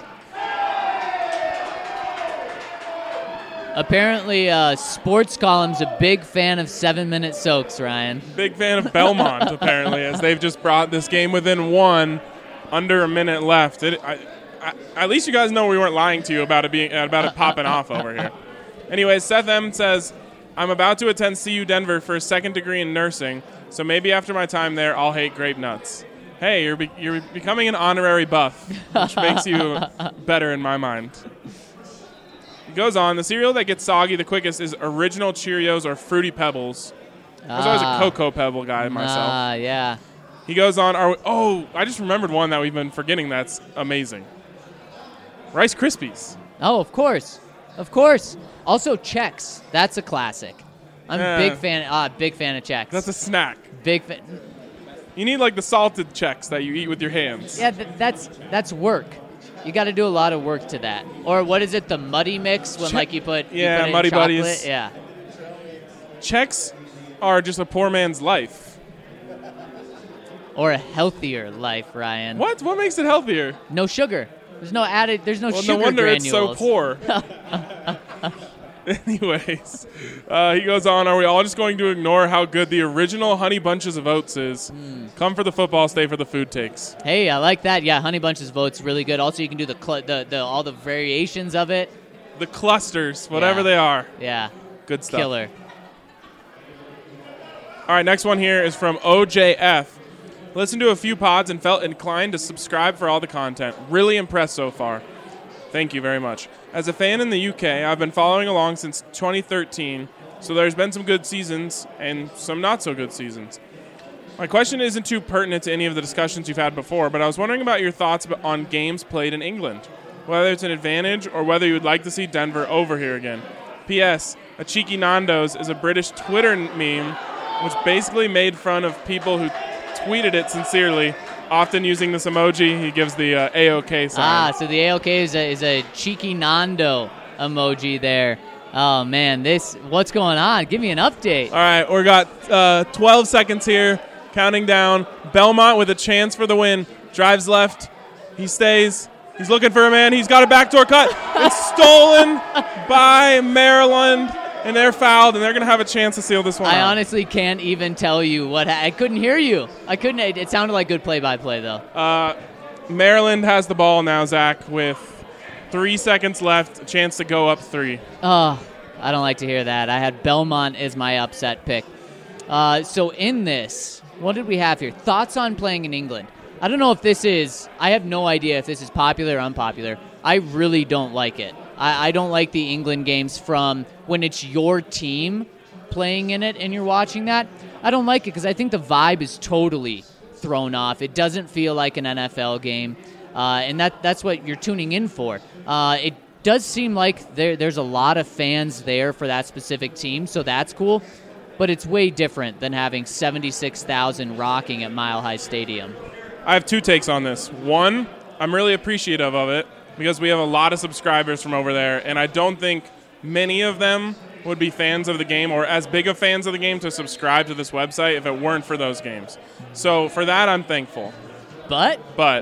Apparently, Sports Column's a big fan of 7-minute soaks, Ryan. Big fan of Belmont, apparently, as they've just brought this game within one, under a minute left. At least you guys know we weren't lying to you about it popping off over here. Anyways, Seth M. says, I'm about to attend CU Denver for a second degree in nursing, so maybe after my time there, I'll hate grape nuts. Hey, you're becoming an honorary buff, which makes you better in my mind. Goes on, the cereal that gets soggy the quickest is Original Cheerios or Fruity Pebbles. I was always a Cocoa Pebble guy myself. Yeah. He goes on, I just remembered one that we've been forgetting that's amazing. Rice Krispies. Oh, of course. Of course. Also, Chex. That's a classic. I'm a big fan of Chex. That's a snack. Big fan. You need like the salted Chex that you eat with your hands. Yeah, that's work. You got to do a lot of work to that. Or what is it, the Muddy Mix when you put it Muddy in chocolate? Buddies. Yeah. Chex are just a poor man's life. Or a healthier life, Ryan. What? What makes it healthier? No sugar. There's no sugar no wonder granules. It's so poor. Anyways, he goes on, are we all just going to ignore how good the original Honey Bunches of Oats is? Come for the football, stay for the food takes. Hey, I like that. Yeah, Honey Bunches of Oats really good. Also, you can do all the variations of it. The clusters, whatever they are. Yeah. Good stuff. Killer. All right, next one here is from OJF. Listened to a few pods and felt inclined to subscribe for all the content. Really impressed so far. Thank you very much. As a fan in the UK, I've been following along since 2013, so there's been some good seasons and some not so good seasons. My question isn't too pertinent to any of the discussions you've had before, but I was wondering about your thoughts on games played in England, whether it's an advantage or whether you would like to see Denver over here again. P.S. A cheeky Nando's is a British Twitter meme which basically made fun of people who tweeted it sincerely, often using this emoji. He gives the A-OK sign. So the A-OK is a cheeky Nando emoji there. Oh, man, what's going on? Give me an update. All right, we got 12 seconds here. Counting down. Belmont with a chance for the win. Drives left. He stays. He's looking for a man. He's got a backdoor cut. It's stolen by Maryland, and they're fouled, and they're going to have a chance to seal this one I out. honestly can't even tell you what I couldn't hear you. I couldn't. It sounded like good play-by-play, though. Maryland has the ball now, Zach, with 3 seconds left, a chance to go up 3. Oh, I don't like to hear that. I had Belmont as my upset pick. So in this, what did we have here? Thoughts on playing in England. I don't know if I have no idea if this is popular or unpopular. I really don't like it. I don't like the England games from when it's your team playing in it and you're watching that. I don't like it because I think the vibe is totally thrown off. It doesn't feel like an NFL game, and that's what you're tuning in for. It does seem like there's a lot of fans there for that specific team, so that's cool. But it's way different than having 76,000 rocking at Mile High Stadium. I have 2 takes on this. One, I'm really appreciative of it because we have a lot of subscribers from over there, and I don't think many of them would be fans of the game or as big of fans of the game to subscribe to this website if it weren't for those games. So for that, I'm thankful. But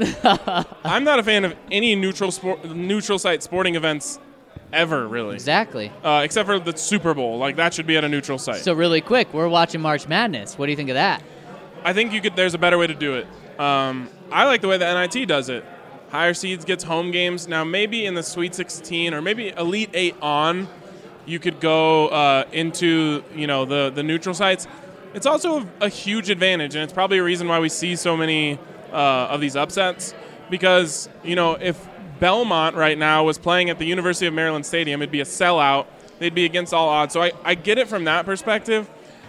I'm not a fan of any neutral site sporting events ever, really. Exactly. Except for the Super Bowl. Like, that should be at a neutral site. So really quick, we're watching March Madness. What do you think of that? I think there's a better way to do it. I like the way the NIT does it. Higher seeds gets home games. Now, maybe in the Sweet 16 or maybe Elite 8 on, you could go into the neutral sites. It's also a huge advantage, and it's probably a reason why we see so many of these upsets. Because, if Belmont right now was playing at the University of Maryland Stadium, it'd be a sellout. They'd be against all odds. So I get it from that perspective.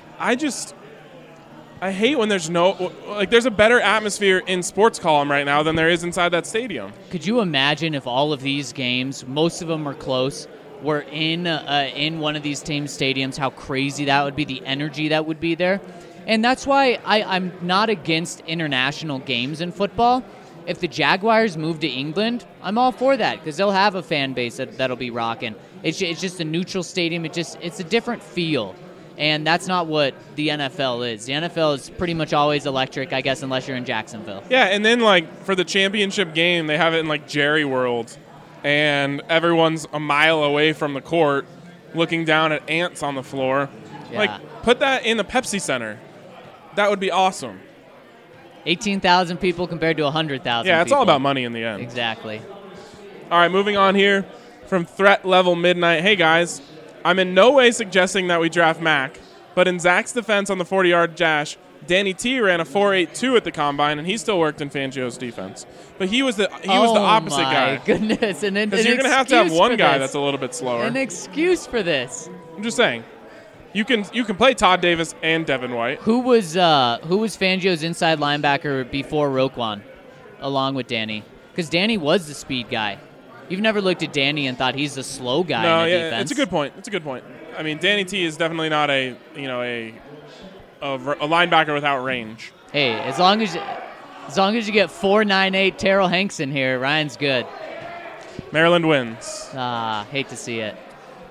I hate when there's there's a better atmosphere in Sports Column right now than there is inside that stadium. Could you imagine if all of these games, most of them are close, were in one of these team stadiums, how crazy that would be, the energy that would be there? And that's why I'm not against international games in football. If the Jaguars move to England, I'm all for that because they'll have a fan base that'll be rocking. It's just a neutral stadium. It's a different feel. And that's not what the NFL is. The NFL is pretty much always electric, I guess, unless you're in Jacksonville. Yeah, and then, for the championship game, they have it in, Jerry World, and everyone's a mile away from the court looking down at ants on the floor. Yeah. Put that in the Pepsi Center. That would be awesome. 18,000 people compared to 100,000 Yeah, it's people. all about money in the end. Exactly. All right, moving on here from Threat Level Midnight. Hey, guys. I'm in no way suggesting that we draft Mac, but in Zach's defense on the 40-yard dash, Danny T ran a 4.82 at the combine, and he still worked in Fangio's defense. But he was the opposite guy. Oh, my goodness. Because you're going to have one guy that's a little bit slower. An excuse for this. I'm just saying. You can play Todd Davis and Devin White. Who was Fangio's inside linebacker before Roquan, along with Danny? Because Danny was the speed guy. You've never looked at Danny and thought he's the slow guy in the defense. It's a good point. I mean, Danny T is definitely not a linebacker without range. Hey, as long as you get 4.98 Terrell Hanks in here, Ryan's good. Maryland wins. Hate to see it.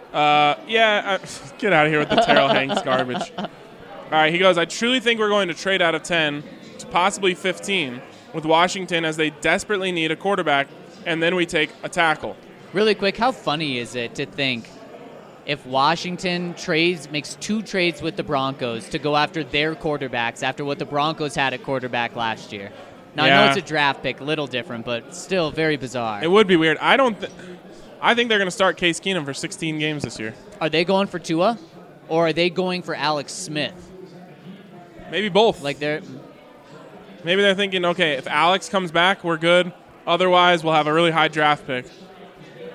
Get out of here with the Terrell Hanks garbage. All right, he goes, I truly think we're going to trade out of 10 to possibly 15 with Washington as they desperately need a quarterback, and then we take a tackle. Really quick, how funny is it to think if Washington makes 2 trades with the Broncos to go after their quarterbacks after what the Broncos had at quarterback last year? Now, I know it's a draft pick, a little different, but still very bizarre. It would be weird. I think they're going to start Case Keenum for 16 games this year. Are they going for Tua, or are they going for Alex Smith? Maybe both. Maybe they're thinking, okay, if Alex comes back, we're good. Otherwise, we'll have a really high draft pick.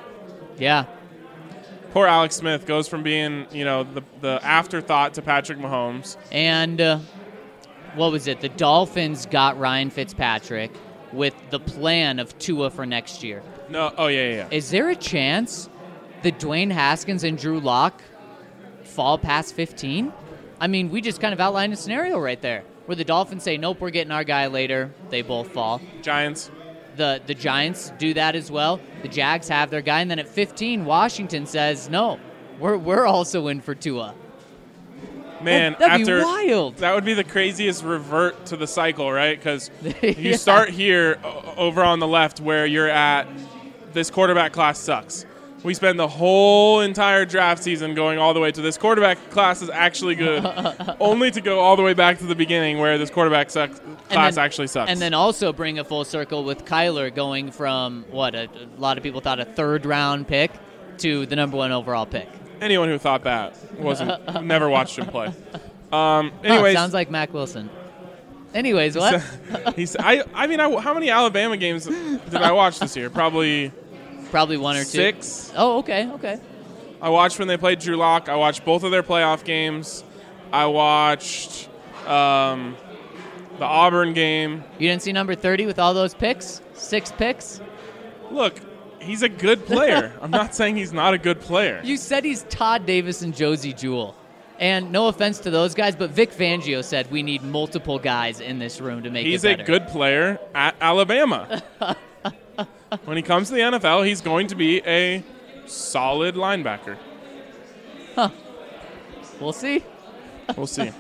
Yeah. Poor Alex Smith goes from being, the afterthought to Patrick Mahomes. And what was it? The Dolphins got Ryan Fitzpatrick with the plan of Tua for next year. No, oh yeah. Is there a chance that Dwayne Haskins and Drew Lock fall past 15? I mean, we just kind of outlined a scenario right there where the Dolphins say, nope, we're getting our guy later. They both fall. Giants. The Giants do that as well. The Jags have their guy. And then at 15, Washington says, no, we're also in for Tua. Man, that'd be wild. That would be the craziest revert to the cycle, right? Because you start here over on the left where you're at, this quarterback class sucks. We spend the whole entire draft season going all the way to this quarterback class is actually good, only to go all the way back to the beginning where this quarterback class actually sucks. And then also bring a full circle with Kyler going from, a lot of people thought a third-round pick to the number 1 overall pick. Anyone who thought that never watched him play. Anyways, sounds like Mac Wilson. Anyways, what? How many Alabama games did I watch this year? Probably 1 or 2. 6. Oh, okay. I watched when they played Drew Lock. I watched both of their playoff games. I watched the Auburn game. You didn't see number 30 with all those picks? 6 picks? Look, he's a good player. I'm not saying he's not a good player. You said he's Todd Davis and Josie Jewell. And no offense to those guys, but Vic Fangio said we need multiple guys in this room to make it better. He's a good player at Alabama. When he comes to the NFL, he's going to be a solid linebacker. Huh. We'll see. We'll see.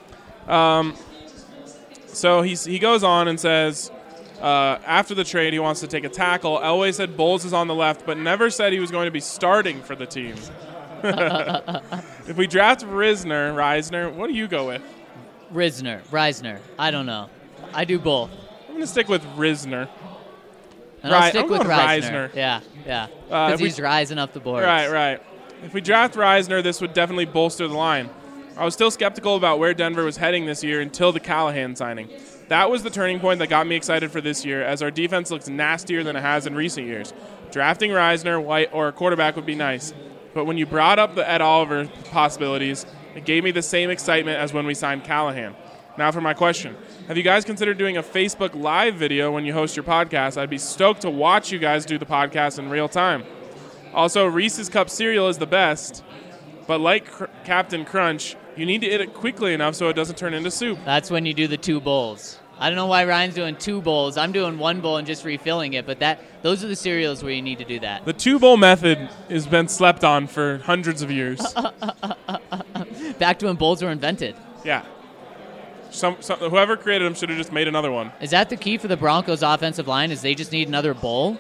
So he goes on and says, after the trade, he wants to take a tackle. Elway said Bowles is on the left, but never said he was going to be starting for the team. If we draft Reisner, what do you go with? Reisner. I don't know. I do both. I'm going to stick with Reisner. And I'll stick with Reisner. Yeah. Because he's rising up the board. Right. If we draft Reisner, this would definitely bolster the line. I was still skeptical about where Denver was heading this year until the Callahan signing. That was the turning point that got me excited for this year, as our defense looks nastier than it has in recent years. Drafting Reisner, White, or a quarterback would be nice. But when you brought up the Ed Oliver possibilities, it gave me the same excitement as when we signed Callahan. Now for my question. Have you guys considered doing a Facebook Live video when you host your podcast? I'd be stoked to watch you guys do the podcast in real time. Also, Reese's Cup cereal is the best, but like Captain Crunch, you need to eat it quickly enough so it doesn't turn into soup. That's when you do the 2 bowls. I don't know why Ryan's doing 2 bowls. I'm doing 1 bowl and just refilling it, but those are the cereals where you need to do that. The 2-bowl method has been slept on for hundreds of years. Back to when bowls were invented. Yeah. Whoever created them should have just made another one. Is that the key for the Broncos' offensive line, is they just need another bowl?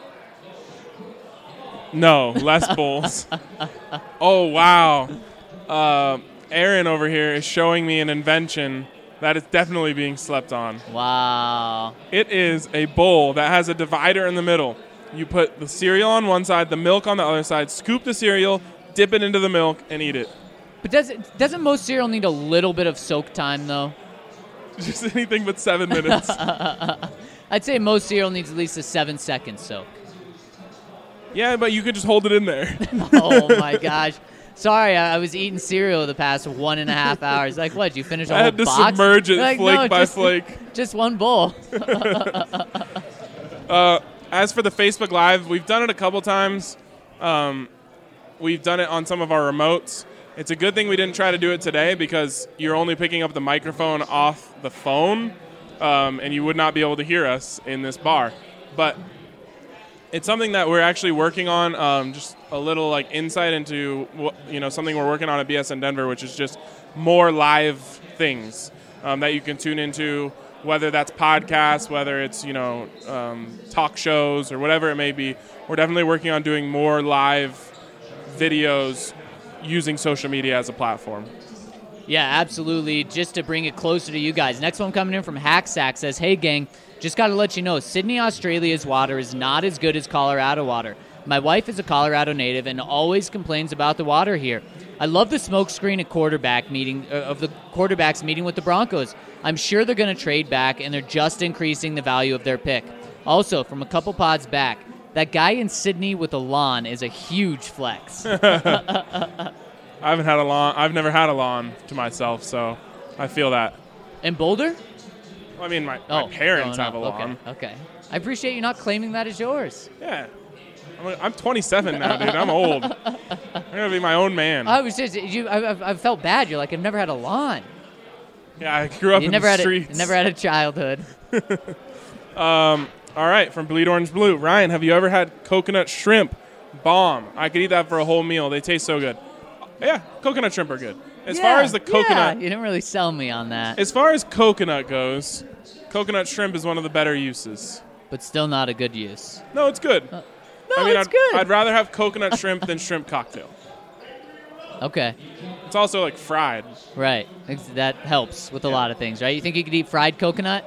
No, less bowls. Oh, wow. Aaron over here is showing me an invention that is definitely being slept on. Wow. It is a bowl that has a divider in the middle. You put the cereal on one side, the milk on the other side, scoop the cereal, dip it into the milk, and eat it. But doesn't most cereal need a little bit of soak time, though? Just anything but 7 minutes. I'd say most cereal needs at least a 7-second soak. Yeah, but you could just hold it in there. Oh, my gosh. Sorry, I was eating cereal the past 1.5 hours. Like, what, did you finish a whole box? I had to submerge it flake by flake. Just 1 bowl. As for the Facebook Live, we've done it a couple times. We've done it on some of our remotes. It's a good thing we didn't try to do it today because you're only picking up the microphone off the phone, and you would not be able to hear us in this bar. But it's something that we're actually working on, just a little insight into something we're working on at BSN Denver, which is just more live things that you can tune into, whether that's podcasts, whether it's talk shows or whatever it may be. We're definitely working on doing more live videos using social media as a platform. Yeah, absolutely. Just to bring it closer to you guys. Next one coming in from Hacksack says, hey, gang, just got to let you know, Sydney, Australia's water is not as good as Colorado water. My wife is a Colorado native and always complains about the water here. I love the smokescreen at quarterback meeting of the quarterbacks meeting with the Broncos. I'm sure they're going to trade back, and they're just increasing the value of their pick. Also, from a couple pods back, that guy in Sydney with a lawn is a huge flex. I've never had a lawn to myself, so I feel that. In Boulder? Well, I mean, my parents have a Okay, lawn. okay. I appreciate you not claiming that as yours. Yeah. I'm 27 now, dude. I'm old. I'm going to be my own man. I was just I felt bad. You're like, I've never had a lawn. Yeah, I grew up You in never the had streets. never had a childhood. All right, from Bleed Orange Blue. Ryan, have you ever had coconut shrimp? Bomb. I could eat that for a whole meal. They taste so good. Yeah, coconut shrimp are good. As far as the coconut, you didn't really sell me on that. as far as coconut goes, coconut shrimp is one of the better uses. But still not a good use. No, it's good. No, I mean, it's good. I'd rather have coconut shrimp than shrimp cocktail. Okay, It's also like fried. right. That helps with a lot of things, right? You think you could eat fried coconut?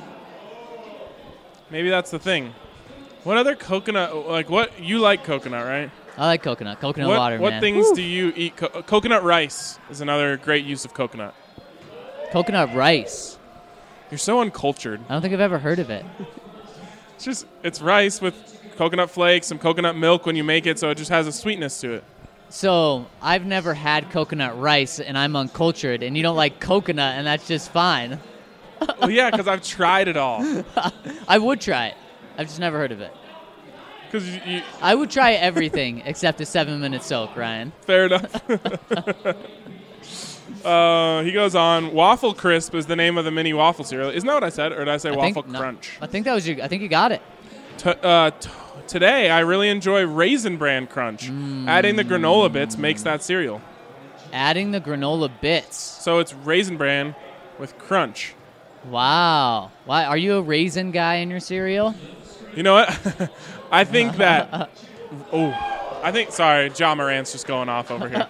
Maybe that's the thing. What other coconut? Like what you like coconut, right? I like coconut. Coconut What water, man. things do you eat? Coconut rice is another great use of coconut. Coconut rice. You're so uncultured. I don't think I've ever heard of it. It's rice with coconut flakes, some coconut milk when you make it, so it just has a sweetness to it. So I've never had coconut rice, and I'm uncultured, and you don't like coconut, and that's just fine. Well, yeah, because I've tried it all. I would try it. I've just never heard of it. Because I would try everything except a 7-minute soak, Ryan. fair enough. He goes on. Waffle Crisp is the name of the mini waffle cereal. Isn't that what I said, or did I say Waffle Crunch? I think that was I think you got it. Today, I really enjoy Raisin Bran Crunch. Adding the granola bits makes that cereal. Adding the granola bits. So it's Raisin Bran with Crunch. Wow. Why are you a raisin guy in your cereal? You know what? I think that. Sorry, John Morant's just going off over here.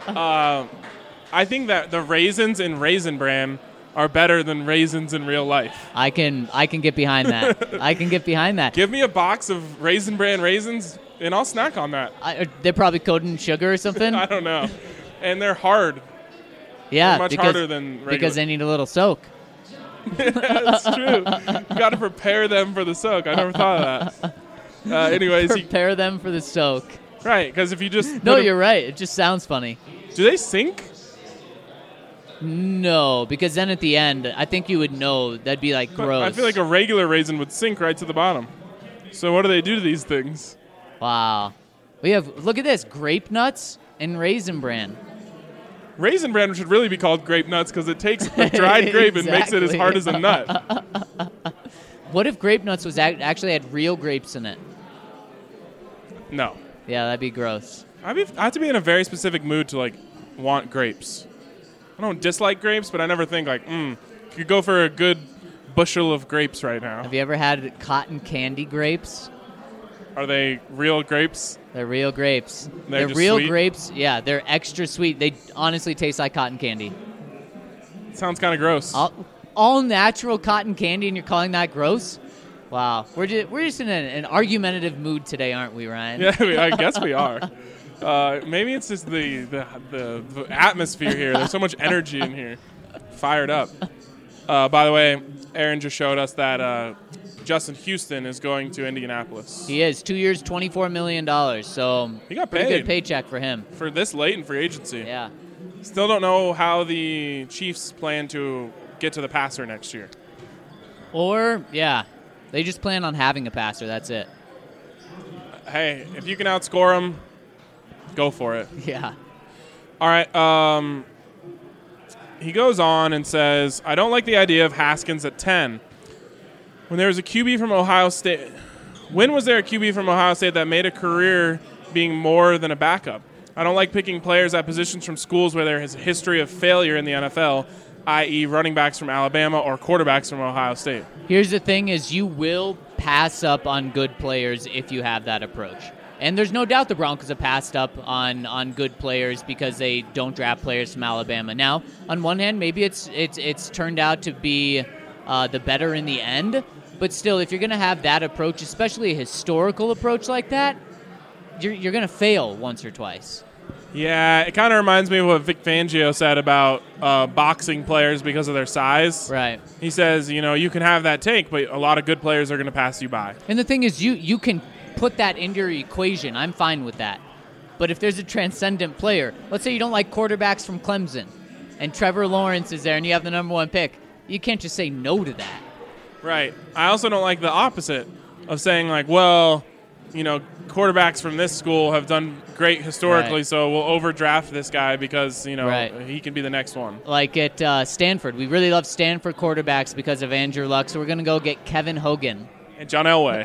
I think that the raisins in Raisin Bran are better than raisins in real life. I can get behind that. I can get behind that. Give me a box of Raisin Bran raisins, and I'll snack on that. They're probably coated in sugar or something. I don't know. And they're hard. Yeah, They're much harder than regular. because they need a little soak. That's true. You got to prepare them for the soak. I never thought of that. Anyways, Prepare them for the soak. right? Because if you just No, you're right. It just sounds funny. Do they sink? No, because then at the end, I think you would know that'd be like gross. I feel like a regular raisin would sink right to the bottom. So what do they do to these things? Wow. Look at this, grape nuts and Raisin Bran. Raisin Bran should really be called grape nuts because it takes a dried grape and makes it as Exactly. hard as a nut. What if grape nuts was actually had real grapes in it? No. Yeah, that'd be gross. I have to be in a very specific mood to like want grapes. I don't dislike grapes, but I never think like, could go for a good bushel of grapes right now. Have you ever had cotton candy grapes? Are they real grapes? They're real grapes. They're just real sweet? grapes. Yeah, they're extra sweet. They honestly taste like cotton candy. Sounds kind of gross. All natural cotton candy, and you're calling that gross? Wow, we're just in an argumentative mood today, aren't we, Ryan? Yeah, I guess we are. Maybe it's just the atmosphere here. There's so much energy in here. Fired up. By the way, Aaron just showed us that Justin Houston is going to Indianapolis. He is. 2 years, $24 million. So He got pretty paid. good paycheck for him. For this late in free agency. Yeah. Still don't know how the Chiefs plan to get to the passer next year. Or, yeah, they just plan on having a passer. That's it. Hey, if you can outscore them, go for it. Yeah. All right. He goes on and says, I don't like the idea of Haskins at 10. When there was a QB from Ohio State, when was there a QB from Ohio State that made a career being more than a backup? I don't like picking players at positions from schools where there is a history of failure in the NFL, i.e. running backs from Alabama or quarterbacks from Ohio State. Here's the thing is you will pass up on good players if you have that approach. And there's no doubt the Broncos have passed up on good players because they don't draft players from Alabama. Now, on one hand, maybe it's turned out to be the better in the end. But still, if you're going to have that approach, especially a historical approach like that, you're going to fail once or twice. Yeah, it kind of reminds me of what Vic Fangio said about boxing players because of their size. Right. He says, you can have that take, but a lot of good players are going to pass you by. And the thing is, you can put that into your equation, I'm fine with that. But if there's a transcendent player, let's say you don't like quarterbacks from Clemson, and Trevor Lawrence is there, and you have the number 1 pick, you can't just say no to that. Right. I also don't like the opposite of saying, like, well, you know, quarterbacks from this school have done great historically, Right. so we'll overdraft this guy because, you know, Right. he can be the next one. Like at Stanford, we really love Stanford quarterbacks because of Andrew Luck, so we're going to go get Kevin Hogan. And John Elway.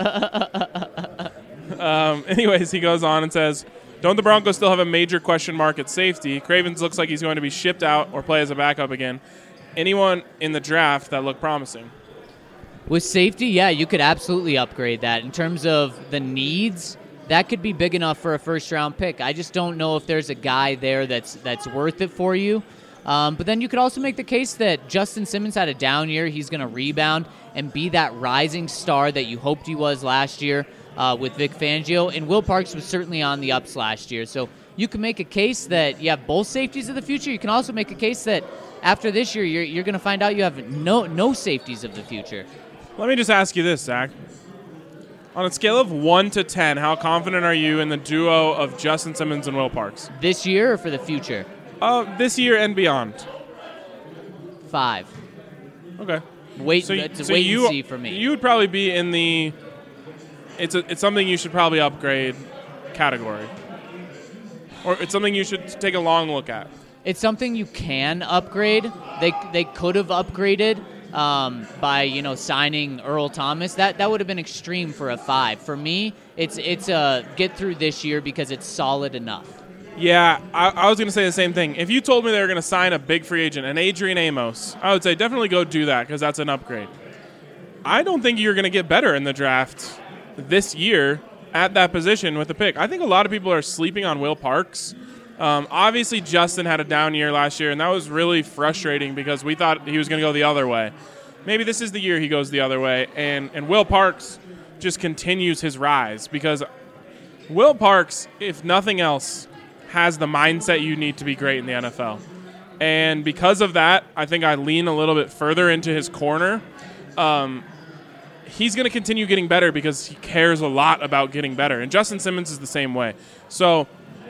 Anyways, he goes on and says, don't the Broncos still have a major question mark at safety? Cravens looks like he's going to be shipped out or play as a backup again. Anyone in the draft that looked promising? With safety, yeah, you could absolutely upgrade that. In terms of the needs, that could be big enough for a first-round pick. I just don't know if there's a guy there that's worth it for you. But then you could also make the case that Justin Simmons had a down year. He's going to rebound and be that rising star that you hoped he was last year with Vic Fangio. And Will Parks was certainly on the ups last year. So you can make a case that you have both safeties of the future. You can also make a case that after this year, you're going to find out you have no safeties of the future. Let me just ask you this, Zach. On a scale of 1 to 10, how confident are you in the duo of Justin Simmons and Will Parks? This year or for the future? This year and beyond. 5. Okay. It's a wait and see for me. You would probably be in the it's something you should probably upgrade category. Or it's something you should take a long look at. It's something you can upgrade. They could have upgraded by signing Earl Thomas. That would have been extreme for a 5. For me, it's a get through this year because it's solid enough. Yeah, I was going to say the same thing. If you told me they were going to sign a big free agent, an Adrian Amos, I would say definitely go do that because that's an upgrade. I don't think you're going to get better in the draft this year at that position with the pick. I think a lot of people are sleeping on Will Parks. Obviously, Justin had a down year last year, and that was really frustrating because we thought he was going to go the other way. Maybe this is the year he goes the other way, and Will Parks just continues his rise because Will Parks, if nothing else, has the mindset you need to be great in the NFL. And because of that, I think I lean a little bit further into his corner. He's going to continue getting better because he cares a lot about getting better. And Justin Simmons is the same way. So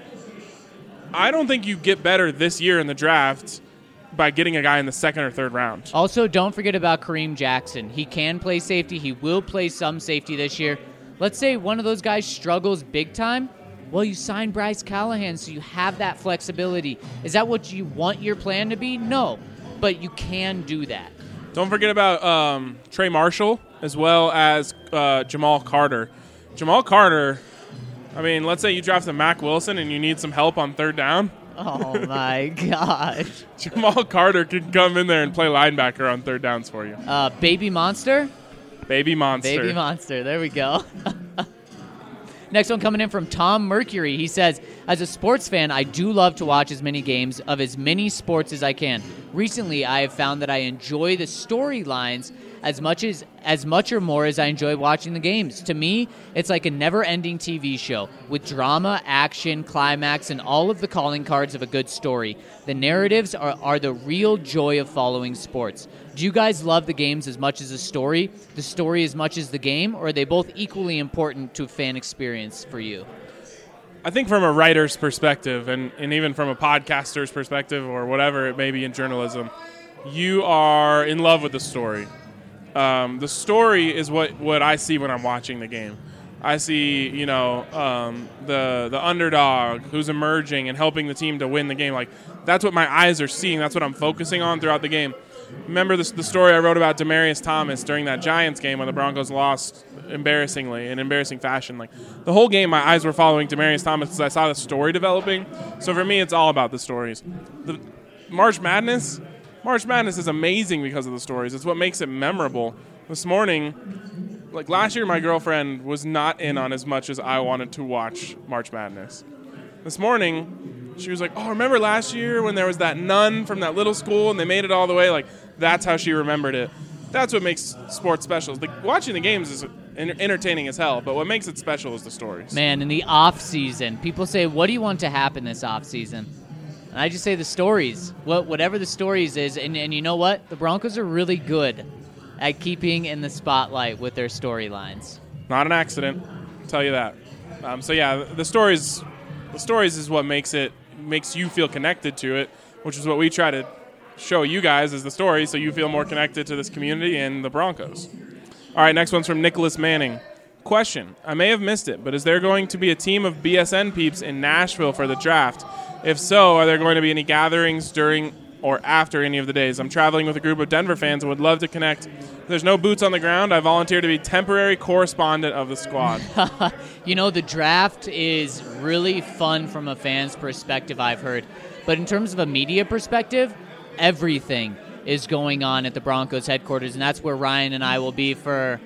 I don't think you get better this year in the draft by getting a guy in the second or third round. Also, don't forget about Kareem Jackson. He can play safety. He will play some safety this year. Let's say one of those guys struggles big time. Well, you sign Bryce Callahan, so you have that flexibility. Is that what you want your plan to be? No, but you can do that. Don't forget about Trey Marshall as well as Jamal Carter. Jamal Carter, I mean, let's say you draft a Mac Wilson and you need some help on third down. Oh, my gosh. Jamal Carter can come in there and play linebacker on third downs for you. Baby Monster? Baby Monster. Baby Monster. There we go. Next one coming in from Tom Mercury. He says, as a sports fan, I do love to watch as many games of as many sports as I can. Recently, I have found that I enjoy the storylines as much or more as I enjoy watching the games. To me, it's like a never-ending TV show with drama, action, climax, and all of the calling cards of a good story. The narratives are the real joy of following sports. Do you guys love the games as much as the story as much as the game, or are they both equally important to a fan experience for you? I think from a writer's perspective and even from a podcaster's perspective or whatever it may be in journalism, you are in love with the story. The story is what I see when I'm watching the game. I see, the underdog who's emerging and helping the team to win the game. Like, that's what my eyes are seeing. That's what I'm focusing on throughout the game. Remember the story I wrote about Demaryius Thomas during that Giants game when the Broncos lost embarrassingly, in embarrassing fashion. Like, the whole game, my eyes were following Demaryius Thomas because I saw the story developing. So for me, it's all about the stories. The March Madness is amazing because of the stories. It's what makes it memorable. This morning, like last year, my girlfriend was not in on as much as I wanted to watch March Madness. This morning, she was like, oh, remember last year when there was that nun from that little school and they made it all the way? Like, that's how she remembered it. That's what makes sports special. Like, watching the games is entertaining as hell, but what makes it special is the stories. Man, in the off season, people say, what do you want to happen this off season? And I just say the stories. Whatever the stories is, and you know what? The Broncos are really good at keeping in the spotlight with their storylines. Not an accident. tell you that. So yeah, the stories is what makes you feel connected to it, which is what we try to show you guys as the story, so you feel more connected to this community and the Broncos. All right, next one's from Nicholas Manning. Question: I may have missed it, but is there going to be a team of BSN peeps in Nashville for the draft? If so, are there going to be any gatherings during or after any of the days? I'm traveling with a group of Denver fans and would love to connect. If there's no boots on the ground, I volunteer to be temporary correspondent of the squad. The draft is really fun from a fan's perspective, I've heard. But in terms of a media perspective, everything is going on at the Broncos headquarters, and that's where Ryan and I will be for,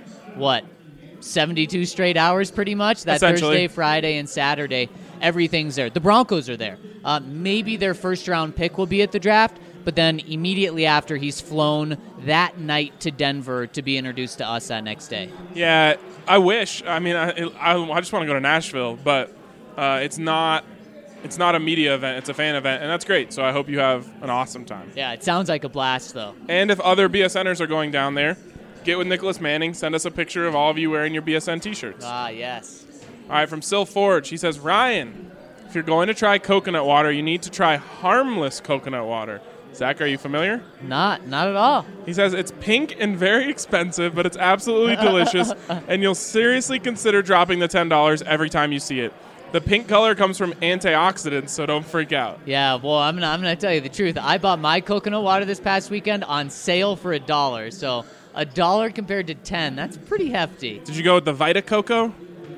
72 straight hours pretty much? That Thursday, Friday, and Saturday, everything's there. The Broncos are there. Maybe their first-round pick will be at the draft, but then immediately after, he's flown that night to Denver to be introduced to us that next day. Yeah, I wish. I mean, I just want to go to Nashville, but it's not a media event. It's a fan event, and that's great. So I hope you have an awesome time. Yeah, it sounds like a blast, though. And if other BSNers are going down there, get with Nicholas Manning. Send us a picture of all of you wearing your BSN T-shirts. Ah, yes. All right, from Sil Forge, he says, Ryan, if you're going to try coconut water, you need to try harmless coconut water. Zach, are you familiar? Not at all. He says it's pink and very expensive, but it's absolutely delicious, and you'll seriously consider dropping the $10 every time you see it. The pink color comes from antioxidants, so don't freak out. Yeah, well, I'm gonna tell you the truth. I bought my coconut water this past weekend on sale for $1. So $1 compared to 10, that's pretty hefty. Did you go with the Vita Coco?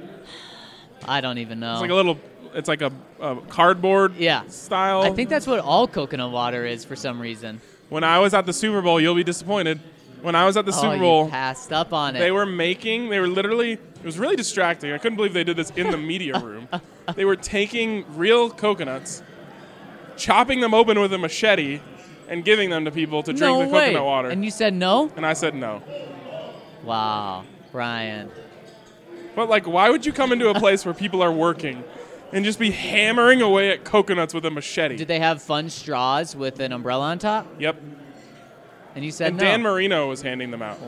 I don't even know. It's like a cardboard style. I think that's what all coconut water is for some reason. When I was at the Super Bowl, you'll be disappointed. When I was at the Super Bowl, you passed up on it. They were literally, it was really distracting. I couldn't believe they did this in the media room. They were taking real coconuts, chopping them open with a machete, and giving them to people to drink the coconut water. And you said no? And I said no. Wow, Ryan. But, why would you come into a place where people are working and just be hammering away at coconuts with a machete? Did they have fun straws with an umbrella on top? Yep. And you said no. Dan Marino was handing them out.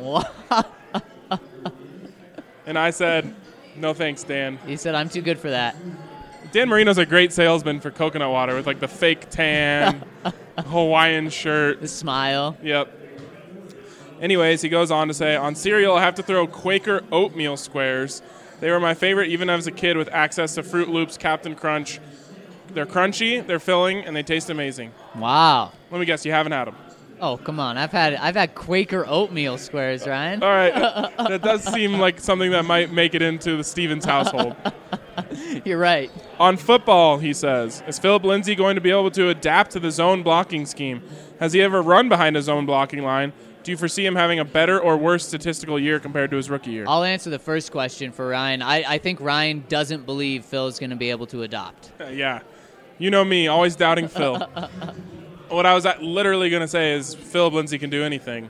And I said, no thanks, Dan. He said, I'm too good for that. Dan Marino's a great salesman for coconut water with, the fake tan, Hawaiian shirt. The smile. Yep. Anyways, he goes on to say, on cereal, I have to throw Quaker oatmeal squares. They were my favorite even as a kid with access to Fruit Loops, Captain Crunch. They're crunchy, they're filling, and they taste amazing. Wow. Let me guess, you haven't had them. Oh, come on. I've had Quaker oatmeal squares, Ryan. All right. That does seem like something that might make it into the Stevens household. You're right. On football, he says, is Philip Lindsay going to be able to adapt to the zone blocking scheme? Has he ever run behind a zone blocking line? Do you foresee him having a better or worse statistical year compared to his rookie year? I'll answer the first question for Ryan. I think Ryan doesn't believe Phil's going to be able to adopt. Yeah. You know me, always doubting Phil. What I was literally going to say is Philip Lindsay can do anything.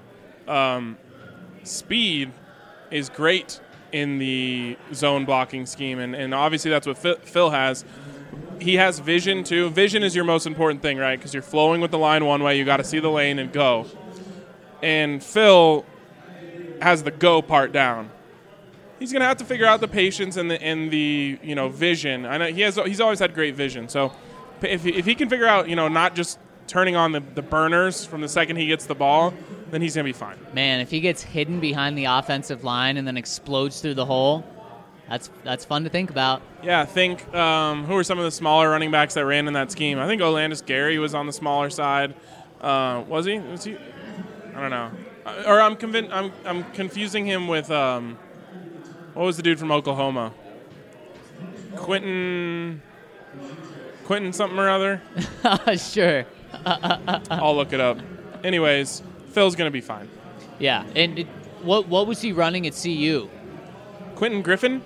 Speed is great in the zone blocking scheme, and obviously that's what Phil has. He has vision, too. Vision is your most important thing, right? Because you're flowing with the line one way. You got to see the lane and go. And Phil has the go part down. He's going to have to figure out the patience and the vision. I know he's always had great vision. So if he can figure out, not just turning on the burners from the second he gets the ball, then he's going to be fine. Man, if he gets hidden behind the offensive line and then explodes through the hole, that's fun to think about. Yeah, think who are some of the smaller running backs that ran in that scheme? I think Olandis Gary was on the smaller side. Was he? I don't know. Or I'm confusing him with what was the dude from Oklahoma? Quentin something or other? Sure. I'll look it up. Anyways, Phil's going to be fine. Yeah. And what was he running at CU? Quentin Griffin?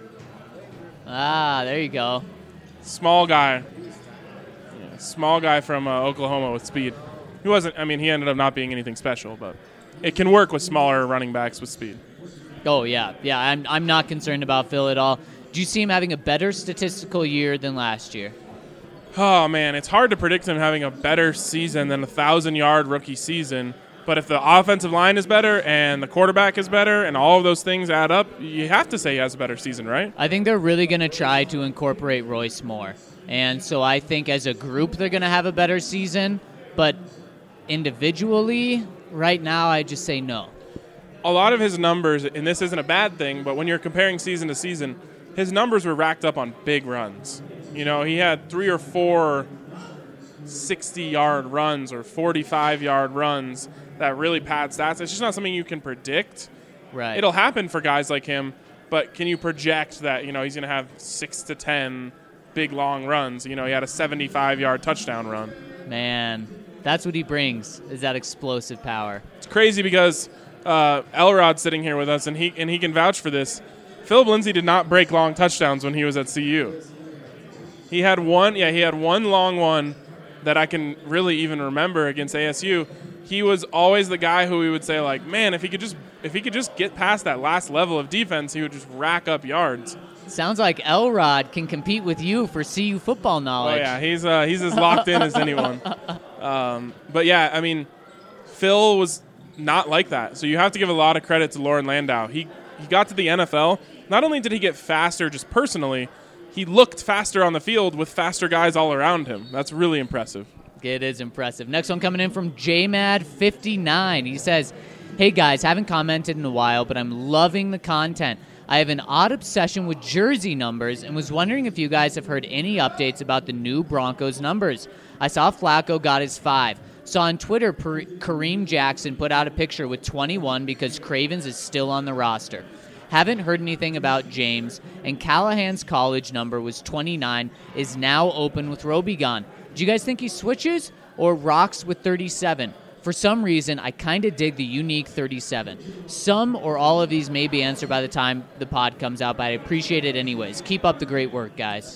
Ah, there you go. Small guy. Yeah, small guy from Oklahoma with speed. He ended up not being anything special, but it can work with smaller running backs with speed. Oh, yeah. Yeah, I'm not concerned about Phil at all. Do you see him having a better statistical year than last year? Oh, man, it's hard to predict him having a better season than a 1,000-yard rookie season. But if the offensive line is better and the quarterback is better and all of those things add up, you have to say he has a better season, right? I think they're really going to try to incorporate Royce more. And so I think as a group they're going to have a better season. But individually, right now, I just say no. A lot of his numbers, and this isn't a bad thing, but when you're comparing season to season, his numbers were racked up on big runs. You know, he had 3 or 4 60-yard runs or 45-yard runs that really pad stats. It's just not something you can predict. Right. It'll happen for guys like him, but can you project that, you know, he's going to have 6 to 10 big, long runs? You know, he had a 75-yard touchdown run. Man, that's what he brings, is that explosive power. It's crazy because Elrod's sitting here with us, and he can vouch for this. Philip Lindsay did not break long touchdowns when he was at CU. He had one long one that I can really even remember against ASU. He was always the guy who we would say, like, man, if he could just get past that last level of defense, he would just rack up yards. Sounds like Elrod can compete with you for CU football knowledge. Oh yeah, he's as locked in as anyone. But yeah, I mean, Phil was not like that. So you have to give a lot of credit to Loren Landau. He got to the NFL. Not only did he get faster just personally, he looked faster on the field with faster guys all around him. That's really impressive. It is impressive. Next one coming in from JMad59. He says, hey guys, haven't commented in a while, but I'm loving the content. I have an odd obsession with jersey numbers and was wondering if you guys have heard any updates about the new Broncos numbers. I saw Flacco got his 5. Saw on Twitter Kareem Jackson put out a picture with 21 because Cravens is still on the roster. Haven't heard anything about James, and Callahan's college number was 29, is now open with Roby gone. Do you guys think he switches or rocks with 37? For some reason, I kind of dig the unique 37. Some or all of these may be answered by the time the pod comes out, but I appreciate it anyways. Keep up the great work, guys.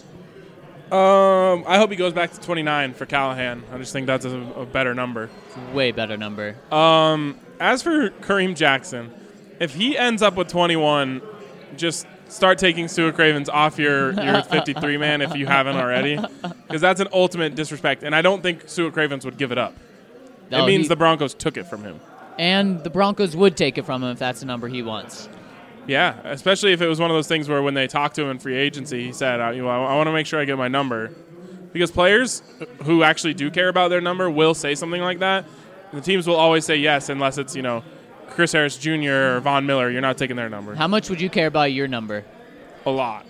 I hope he goes back to 29 for Callahan. I just think that's a better number. Way better number. As for Kareem Jackson, if he ends up with 21, just start taking Stuart Cravens off your 53 man if you haven't already, because that's an ultimate disrespect, and I don't think Stuart Cravens would give it up. It means the Broncos took it from him. And the Broncos would take it from him if that's the number he wants. Yeah, especially if it was one of those things where when they talked to him in free agency, he said, I want to make sure I get my number. Because players who actually do care about their number will say something like that. The teams will always say yes unless it's, Chris Harris Jr. or Von Miller. You're not taking their number. How much would you care about your number? A lot.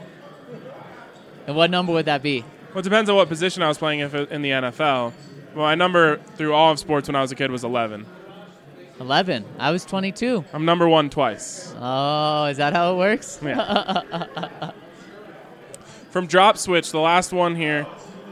And what number would that be? Well, it depends on what position I was playing in the NFL. Well, my number through all of sports when I was a kid was 11. 11. I was 22. I'm number 1 twice. Oh, is that how it works? Yeah. From Drop Switch, the last one here,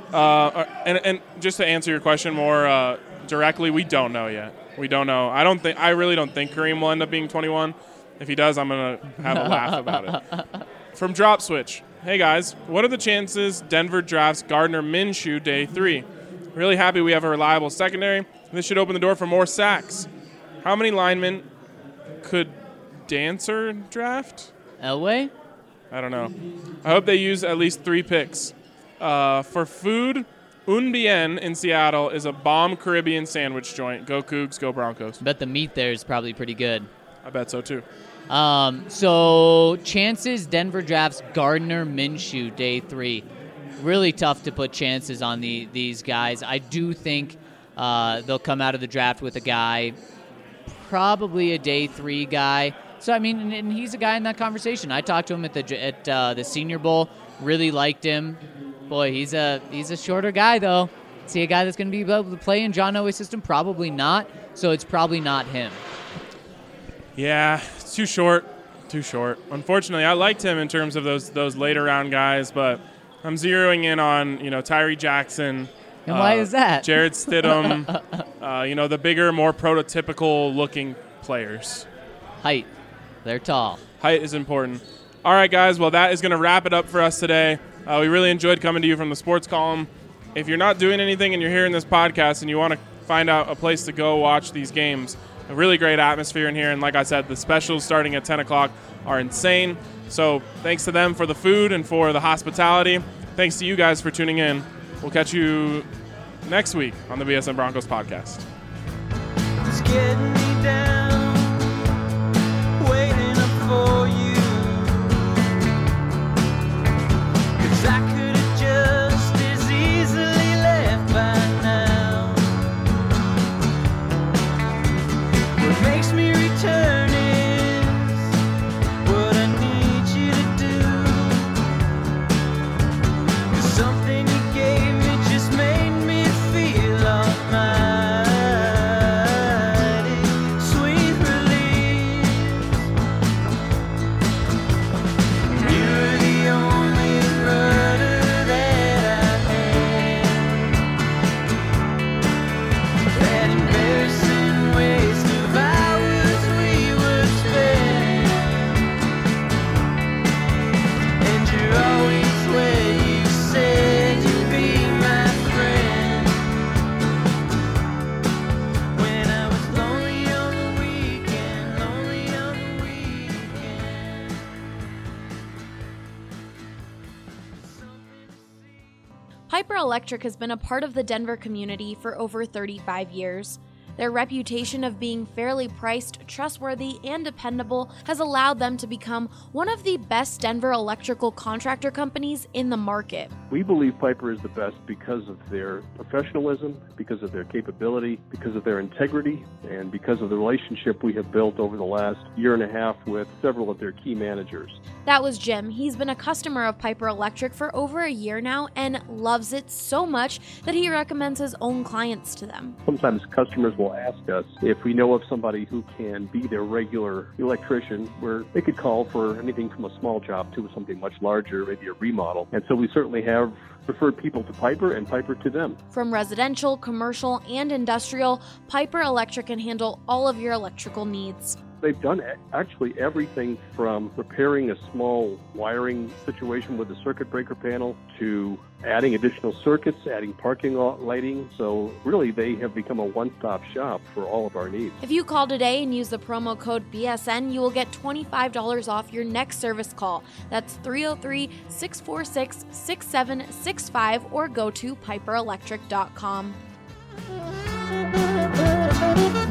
and just to answer your question more directly, we don't know yet. We don't know. I really don't think Kareem will end up being 21. If he does, I'm going to have a laugh about it. From Drop Switch, hey guys, what are the chances Denver drafts Gardner Minshew day 3? Really happy we have a reliable secondary. This should open the door for more sacks. How many linemen could Dancer draft? Elway? I don't know. I hope they use at least 3 picks. For food, Un Bien in Seattle is a bomb Caribbean sandwich joint. Go Cougs, go Broncos. I bet the meat there is probably pretty good. I bet so too. So chances Denver drafts Gardner Minshew day 3. Really tough to put chances on these guys. I do think they'll come out of the draft with a guy, probably a day 3 guy. So, I mean, and he's a guy in that conversation. I talked to him at the Senior Bowl. Really liked him. Boy, he's a shorter guy, though. See a guy that's going to be able to play in John Elway's system? Probably not. So it's probably not him. Yeah, it's too short. Too short. Unfortunately, I liked him in terms of those later round guys, but I'm zeroing in on Tyree Jackson. And why is that? Jared Stidham. The bigger, more prototypical looking players. Height. They're tall. Height is important. All right, guys. Well, that is going to wrap it up for us today. We really enjoyed coming to you from the Sports Column. If you're not doing anything and you're hearing this podcast and you want to find out a place to go watch these games, a really great atmosphere in here. And like I said, the specials starting at 10 o'clock are insane. So thanks to them for the food and for the hospitality. Thanks to you guys for tuning in. We'll catch you next week on the BSN Broncos podcast. getting me down, waiting up for you. 'Cause I could have just as easily left by now. What makes me return is what I need you to do. 'Cause something you gave me just made me feel almighty. Sweet release. You're the only rudder that I had. That embarrassing waste of hours we would spend. And you're always where you said you'd be my friend. When I was lonely on the weekend, lonely on the weekend. Piper Electric has been a part of the Denver community for over 35 years. Their reputation of being fairly priced, trustworthy, and dependable has allowed them to become one of the best Denver electrical contractor companies in the market. We believe Piper is the best because of their professionalism, because of their capability, because of their integrity, and because of the relationship we have built over the last year and a half with several of their key managers. That was Jim. He's been a customer of Piper Electric for over a year now and loves it so much that he recommends his own clients to them. Sometimes customers will ask us if we know of somebody who can be their regular electrician, where they could call for anything from a small job to something much larger, maybe a remodel. And so we certainly have referred people to Piper and Piper to them. From residential, commercial, and industrial, Piper Electric can handle all of your electrical needs. They've done actually everything from repairing a small wiring situation with a circuit breaker panel to adding additional circuits, adding parking lot lighting. So really, they have become a one-stop shop for all of our needs. If you call today and use the promo code BSN, you will get $25 off your next service call. That's 303-646-6765 or go to piperelectric.com.